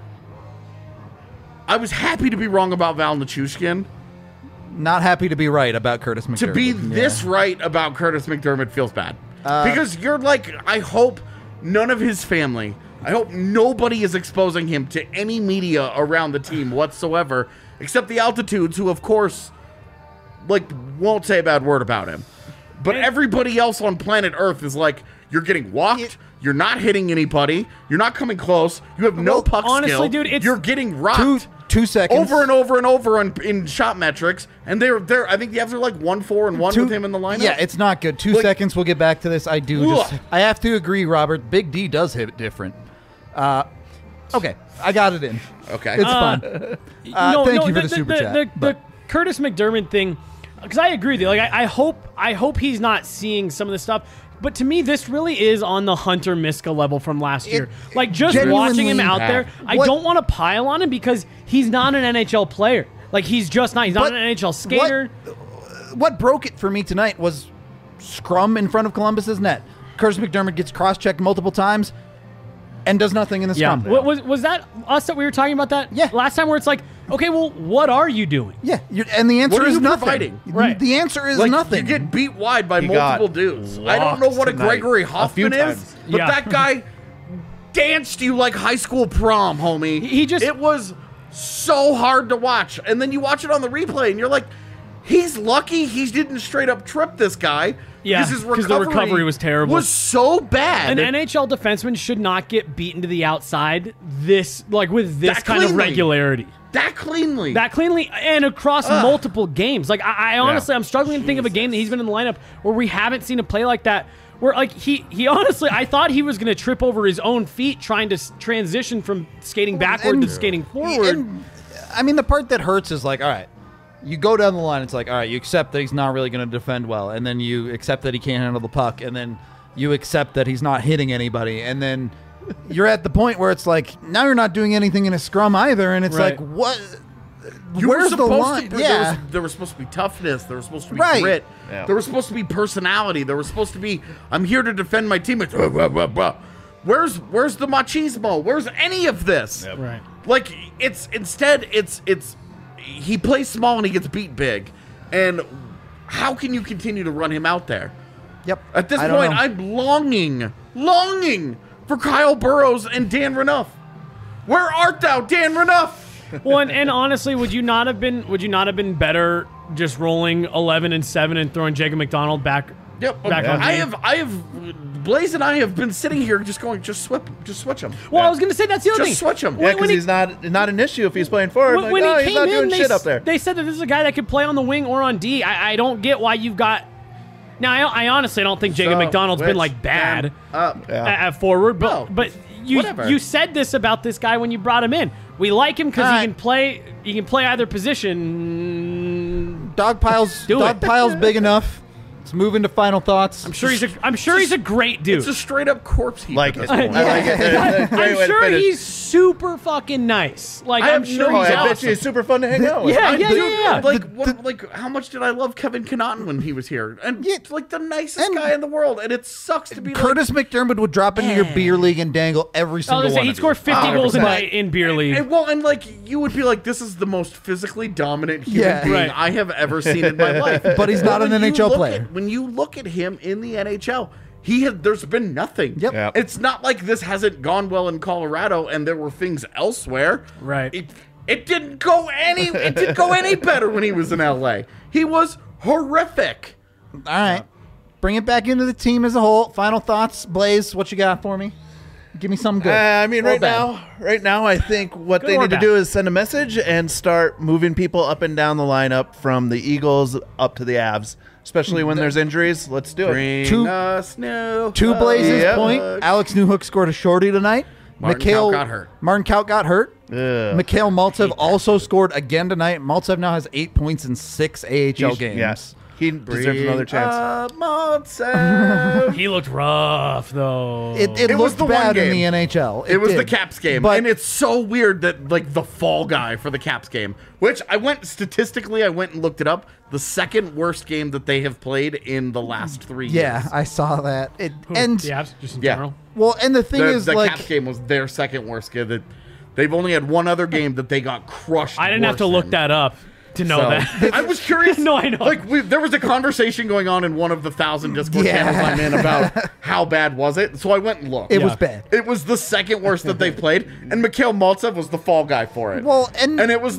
I was happy to be wrong about Val Nichushkin. Not happy to be right about Curtis McDermott. To be Yeah. this right about Curtis McDermott feels bad. Uh, because you're like, I hope none of his family, I hope nobody is exposing him to any media around the team whatsoever except the altitudes, who of course, like, won't say a bad word about him. But And- everybody else on planet Earth is like, you're getting walked. It- You're not hitting anybody. You're not coming close. You have no Well, puck honestly, skill. dude, it's- you're getting rocked. Two two seconds. over and over and over in, in shot metrics, and they're they're. I think the Avs are like one four and one Two- with him in the lineup. Yeah, it's not good. Two Like- seconds. We'll get back to this. I do. Just, Ugh. I have to agree, Robert. Big D does hit different. Uh, okay, I got it in. okay. It's fine. Uh, thank you for the super the, chat, The, but- the Curtis McDermott thing, because I agree with you. Like, I, I hope, I hope he's not seeing some of this stuff. But to me, this really is on the Hunter Miska level from last year. Like, just watching him genuinely- out there, I What- don't want to pile on him because he's not an N H L player. Like, he's just not. He's not What- an N H L skater. What broke it for me tonight was scrum in front of Columbus's net. Curtis McDermott gets cross-checked multiple times and does nothing in the Yeah. scrum. Wa- Was, was that us that we were talking about that? Yeah. Last time where it's like, okay, well, what are you doing? Yeah, you're, and the answer What are is you nothing. providing? Right. The answer is Like, nothing. You get beat wide by He multiple got dudes. I don't know what a locked Gregory tonight a few Hoffman is, times. but Yeah. that guy danced you like high school prom, homie. He- he just- It was so hard to watch. And then you watch it on the replay, and you're like, he's lucky he didn't straight up trip this guy. Yeah, because his 'cause the recovery was terrible. Was so bad. An N H L defenseman should not get beaten to the outside this, like, with this That kind of cleanly. regularity. that cleanly. That cleanly and across multiple games. Like I, I honestly, Yeah. I'm struggling to think of a game that he's been in the lineup where we haven't seen him play like that. Where like he, he honestly, I thought he was going to trip over his own feet trying to s- transition from skating backward and- to skating forward. And, I mean, the part that hurts is like, all right, you go down the line. It's like, all right, you accept that he's not really going to defend well, and then you accept that he can't handle the puck, and then you accept that he's not hitting anybody, and then you're at the point where it's like, now you're not doing anything in a scrum either, and it's Right. like, what? You Where's were the supposed line? To, yeah. there, was, there was supposed to be toughness. There was supposed to be Right. grit. Yeah. There was supposed to be personality. There was supposed to be, I'm here to defend my teammates. Blah, blah, blah, blah. Where's where's the machismo? Where's any of this? Right. Like it's instead it's it's he plays small and he gets beat big, and how can you continue to run him out there? Yep. At this I don't point, know. I'm longing, longing for Kyle Burrows and Dan Renouf. Where art thou, Dan Renouf? Well, and, and honestly, would you not have been? Would you not have been better just rolling eleven and seven and throwing Jacob McDonald back? Yep. Back on I me. have, I have, Blaze and I have been sitting here just going, just swip, just switch him. Well, I was going to say that's the other Just thing. switch him. Yeah, When- because when he- he's not not an issue if he's playing forward. When, like, when no, he he's came not in, doing they, shit s- up there. they said that this is a guy that could play on the wing or on D. I, I don't get why you've got. Now, I, I honestly don't think Jacob So, McDonald's been which, like bad then, uh, Yeah. at, at forward, but No, but you whatever. you said this about this guy when you brought him in. We like him because All he right. can play. He can play either position. Dog piles. Do dog it. piles big enough. Let's move into final thoughts. I'm sure he's a. I'm sure he's a great dude. It's a straight up corpse heap. Like at it. this I point. like it. That's a great I'm way to sure finish. he's super fucking nice. Like I I'm have sure no Oh, he's I doubt. bet awesome. you he's super fun to hang out with. Yeah, I yeah, do. yeah, yeah. Like, what, like, how much did I love Kevin Connaughton when he was here? And Yeah. like the nicest And- guy in the world. And it sucks to be Curtis McDermott would drop into your Eh. beer league and dangle every I single was gonna say one. he'd of score you. fifty Oh, goals a but- night in beer league. And, well, and like you would be like, this is the most physically dominant human Yeah. being Right. I have ever seen in my life. But he's not when an you N H L look player. at- when you look at him in the N H L, he had there's been nothing. Yep. Yep. It's not like this hasn't gone well in Colorado and there were things elsewhere. Right. It, it didn't go any it didn't go any better when he was in L A. He was horrific. All right. Bring it back into the team as a whole. Final thoughts, Blaze. What you got for me? Give me something good. Uh, I mean, Or right bad. now, right now, I think what Good they or need to bad? do is send a message and start moving people up and down the lineup from the Eagles up to the Avs, especially when there's injuries. Let's do it. Bring Two- us new To Blaze's Yep. point, Alex Newhook scored a shorty tonight. Martin Mikhail Kaut got hurt. Martin Kaut got hurt. Ugh. Mikhail Maltsev also scored again tonight. Maltsev now has eight points in six A H L He's- games. Yes, he deserves another chance. Uh, Montse. He looked rough though. It, it, It was looked the one bad in game. the N H L. It was did. the Caps game, But and it's so weird that like the fall guy for the Caps game, which I went statistically, I went and looked it up. The second worst game that they have played in the last three yeah, years. I saw that. It Who? and the Avs, just in Yeah. general. well, and the thing The, is the like Caps game was their second worst game. That they've only had one other game that they got crushed. I didn't have to worse look in. that up to know So, that. I was curious. No, I know. Like we, there was a conversation going on in one of the thousand Discord Yeah. channels I'm in about how bad was it. So I went and looked. it Yeah. was bad. It was the second worst that they've played, and Mikhail Maltsev was the fall guy for it. Well, and- and it was like,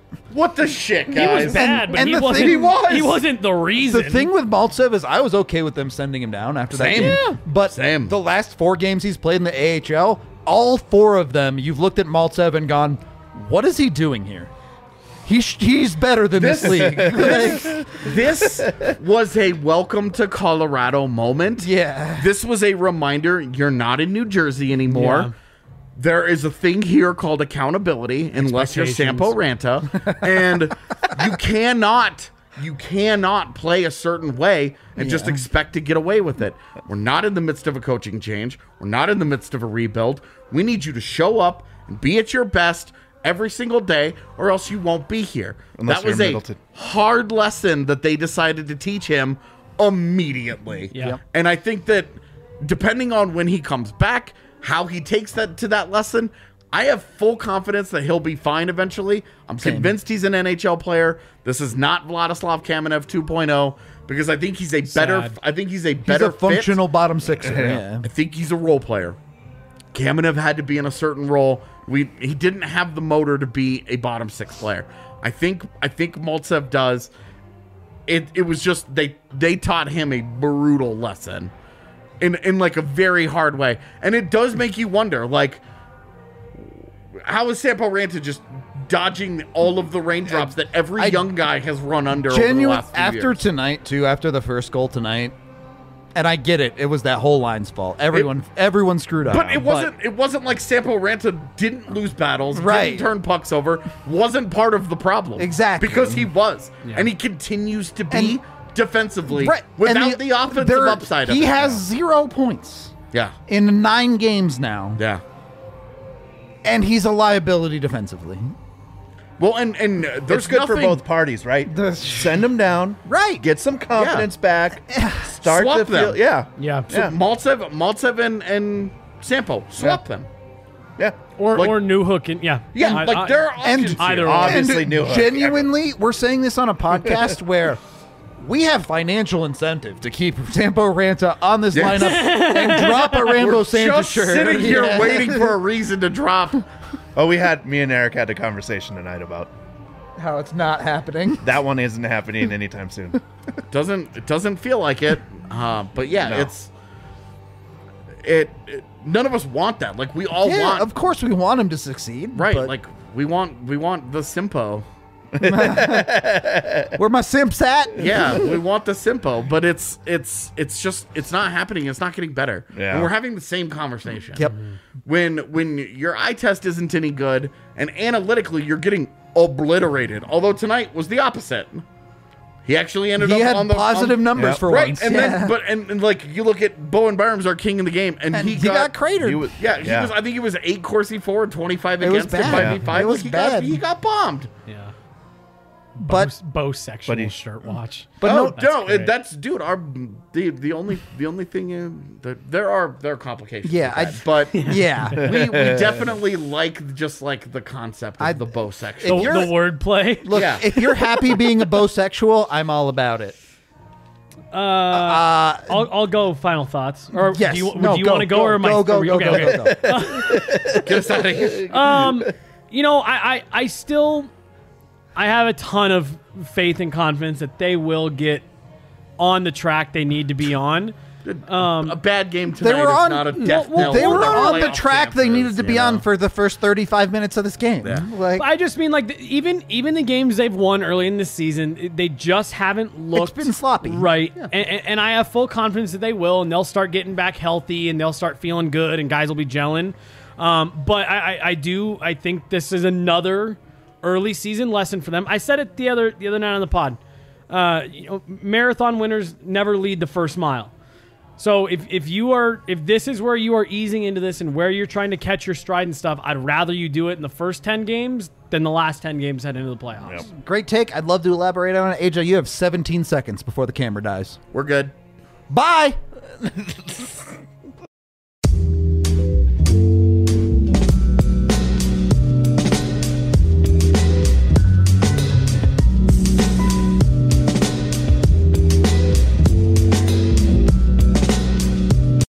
What the shit, He guys? was bad, but and he the wasn't. thing- He was. He wasn't the reason. The thing with Maltsev is I was okay with them sending him down after Same. that game. Yeah. But Same. the last four games he's played in the A H L, all four of them, you've looked at Maltsev and gone, what is he doing here? He sh- he's better than this, This- league. Like, This was a welcome to Colorado moment. yeah. This was a reminder you're not in New Jersey anymore. Yeah. There is a thing here called accountability, unless you're Sampo Ranta, and you cannot, you cannot play a certain way and just Yeah. expect to get away with it. We're not in the midst of a coaching change. We're not in the midst of a rebuild. We need you to show up and be at your best every single day, or else you won't be here. Unless that was you're a Middleton. hard lesson that they decided to teach him immediately. Yeah. Yep. And I think that depending on when he comes back, how he takes that to that lesson, I have full confidence that he'll be fine eventually. I'm convinced he's an N H L player. This is not Vladislav Kamenev two point oh because I think he's a better Sad. I think he's a He's better a functional bottom sixer. fit. Yeah. I think he's a role player. Kamenev had to be in a certain role. We he didn't have the motor to be a bottom six player. I think I think Maltsev does. It it was just they they taught him a brutal lesson in in like a very hard way. And it does make you wonder, like, how is Sampo Ranta just dodging all of the raindrops that every I- young guy has run under over the Genuine last few after years? tonight too, after the first goal tonight, and I get it. It was that whole line's fault. Everyone, everyone screwed up. But it wasn't. It wasn't like Sampo Ranta didn't lose battles, Right. didn't turn pucks over, wasn't part of the problem. Exactly. because he was, and he continues to be And- defensively Right, without and the, offensive there- upside. Of He it has now. zero points yeah, in nine games now, yeah. and he's a liability defensively. Well, and and uh, there's It's good nothing, for both parties, right? The- Send them down, Right. Get some confidence back. Start Swap the them. field. Yeah, yeah. So Yeah. Maltsev, Maltsev, and, and Sampo swap Yeah. them. yeah. Or Like- or New Hook and yeah. Yeah, I- like I- there are and- options Either here. way. Obviously, And New Hook. genuinely, we're saying this on a podcast where we have financial incentive to keep Sampo Ranta on this Yeah. lineup and drop a Rambo We're Santa just shirt. sitting here Yeah. waiting for a reason to drop. Oh, we had me and Eric had a conversation tonight about How it's not happening. that one isn't happening anytime soon. Doesn't it doesn't feel like it, uh, but yeah, No. it's it, it. None of us want that. Like we all Yeah, want, of course we want him to succeed. right? but Like we want we want the Simpo. where my simps at? Yeah, we want the Simpo, but it's it's it's just it's not happening. It's not getting better. Yeah. And we're having the same conversation. Yep. When when your eye test isn't any good, and analytically you're getting obliterated. Although tonight was the opposite. He actually ended He up had on the positive on- numbers Yep. for right, once. and yeah. then but and, and like you look at Bowen Barnes, our king in the game, and, and he, he, got, cratered. He was- Yeah, he Yeah. was. I think he was eight Corsi for and twenty-five It was against him bad. five v five. It was he bad. Got, he got bombed. Yeah. but Bo sexual But he- shirt watch. but oh no, no, That's it- great. that's dude. Our the the only the only thing is that there are there are complications. Yeah, with I- that, but yeah. we, we definitely like just like the concept of I- the bow If section. The, you're- the wordplay. Look, Yeah. if you're happy being a bisexual, I'm all about it. Uh, Uh, I'll, I'll go final thoughts. Or yes. do you, no, do you want to go, or am I? go, go, are we- go, okay, go, okay. go, go. Get us out of here. Um, you know, I, I, I still, I have a ton of faith and confidence that they will get on the track they need to be on. Um, a bad game tonight They were is on. not a death well, knell they for were their on the playoff track they chances, needed to be you on know? for the first thirty-five minutes of this game. Yeah. Like, I just mean like the, even even the games they've won early in the season, they just haven't looked. been sloppy. right? And, and, and I have full confidence that they will, and they'll start getting back healthy, and they'll start feeling good, and guys will be gelling. Um, but I, I, I do I think this is another early season lesson for them. I said it the other the other night on the pod. Uh, you know, marathon winners never lead the first mile. So if, if you are if this is where you are easing into this and where you're trying to catch your stride and stuff, I'd rather you do it in the first ten games than the last ten games head into the playoffs. great take. I'd love to elaborate on it. A J, you have seventeen seconds before the camera dies. We're good. Bye.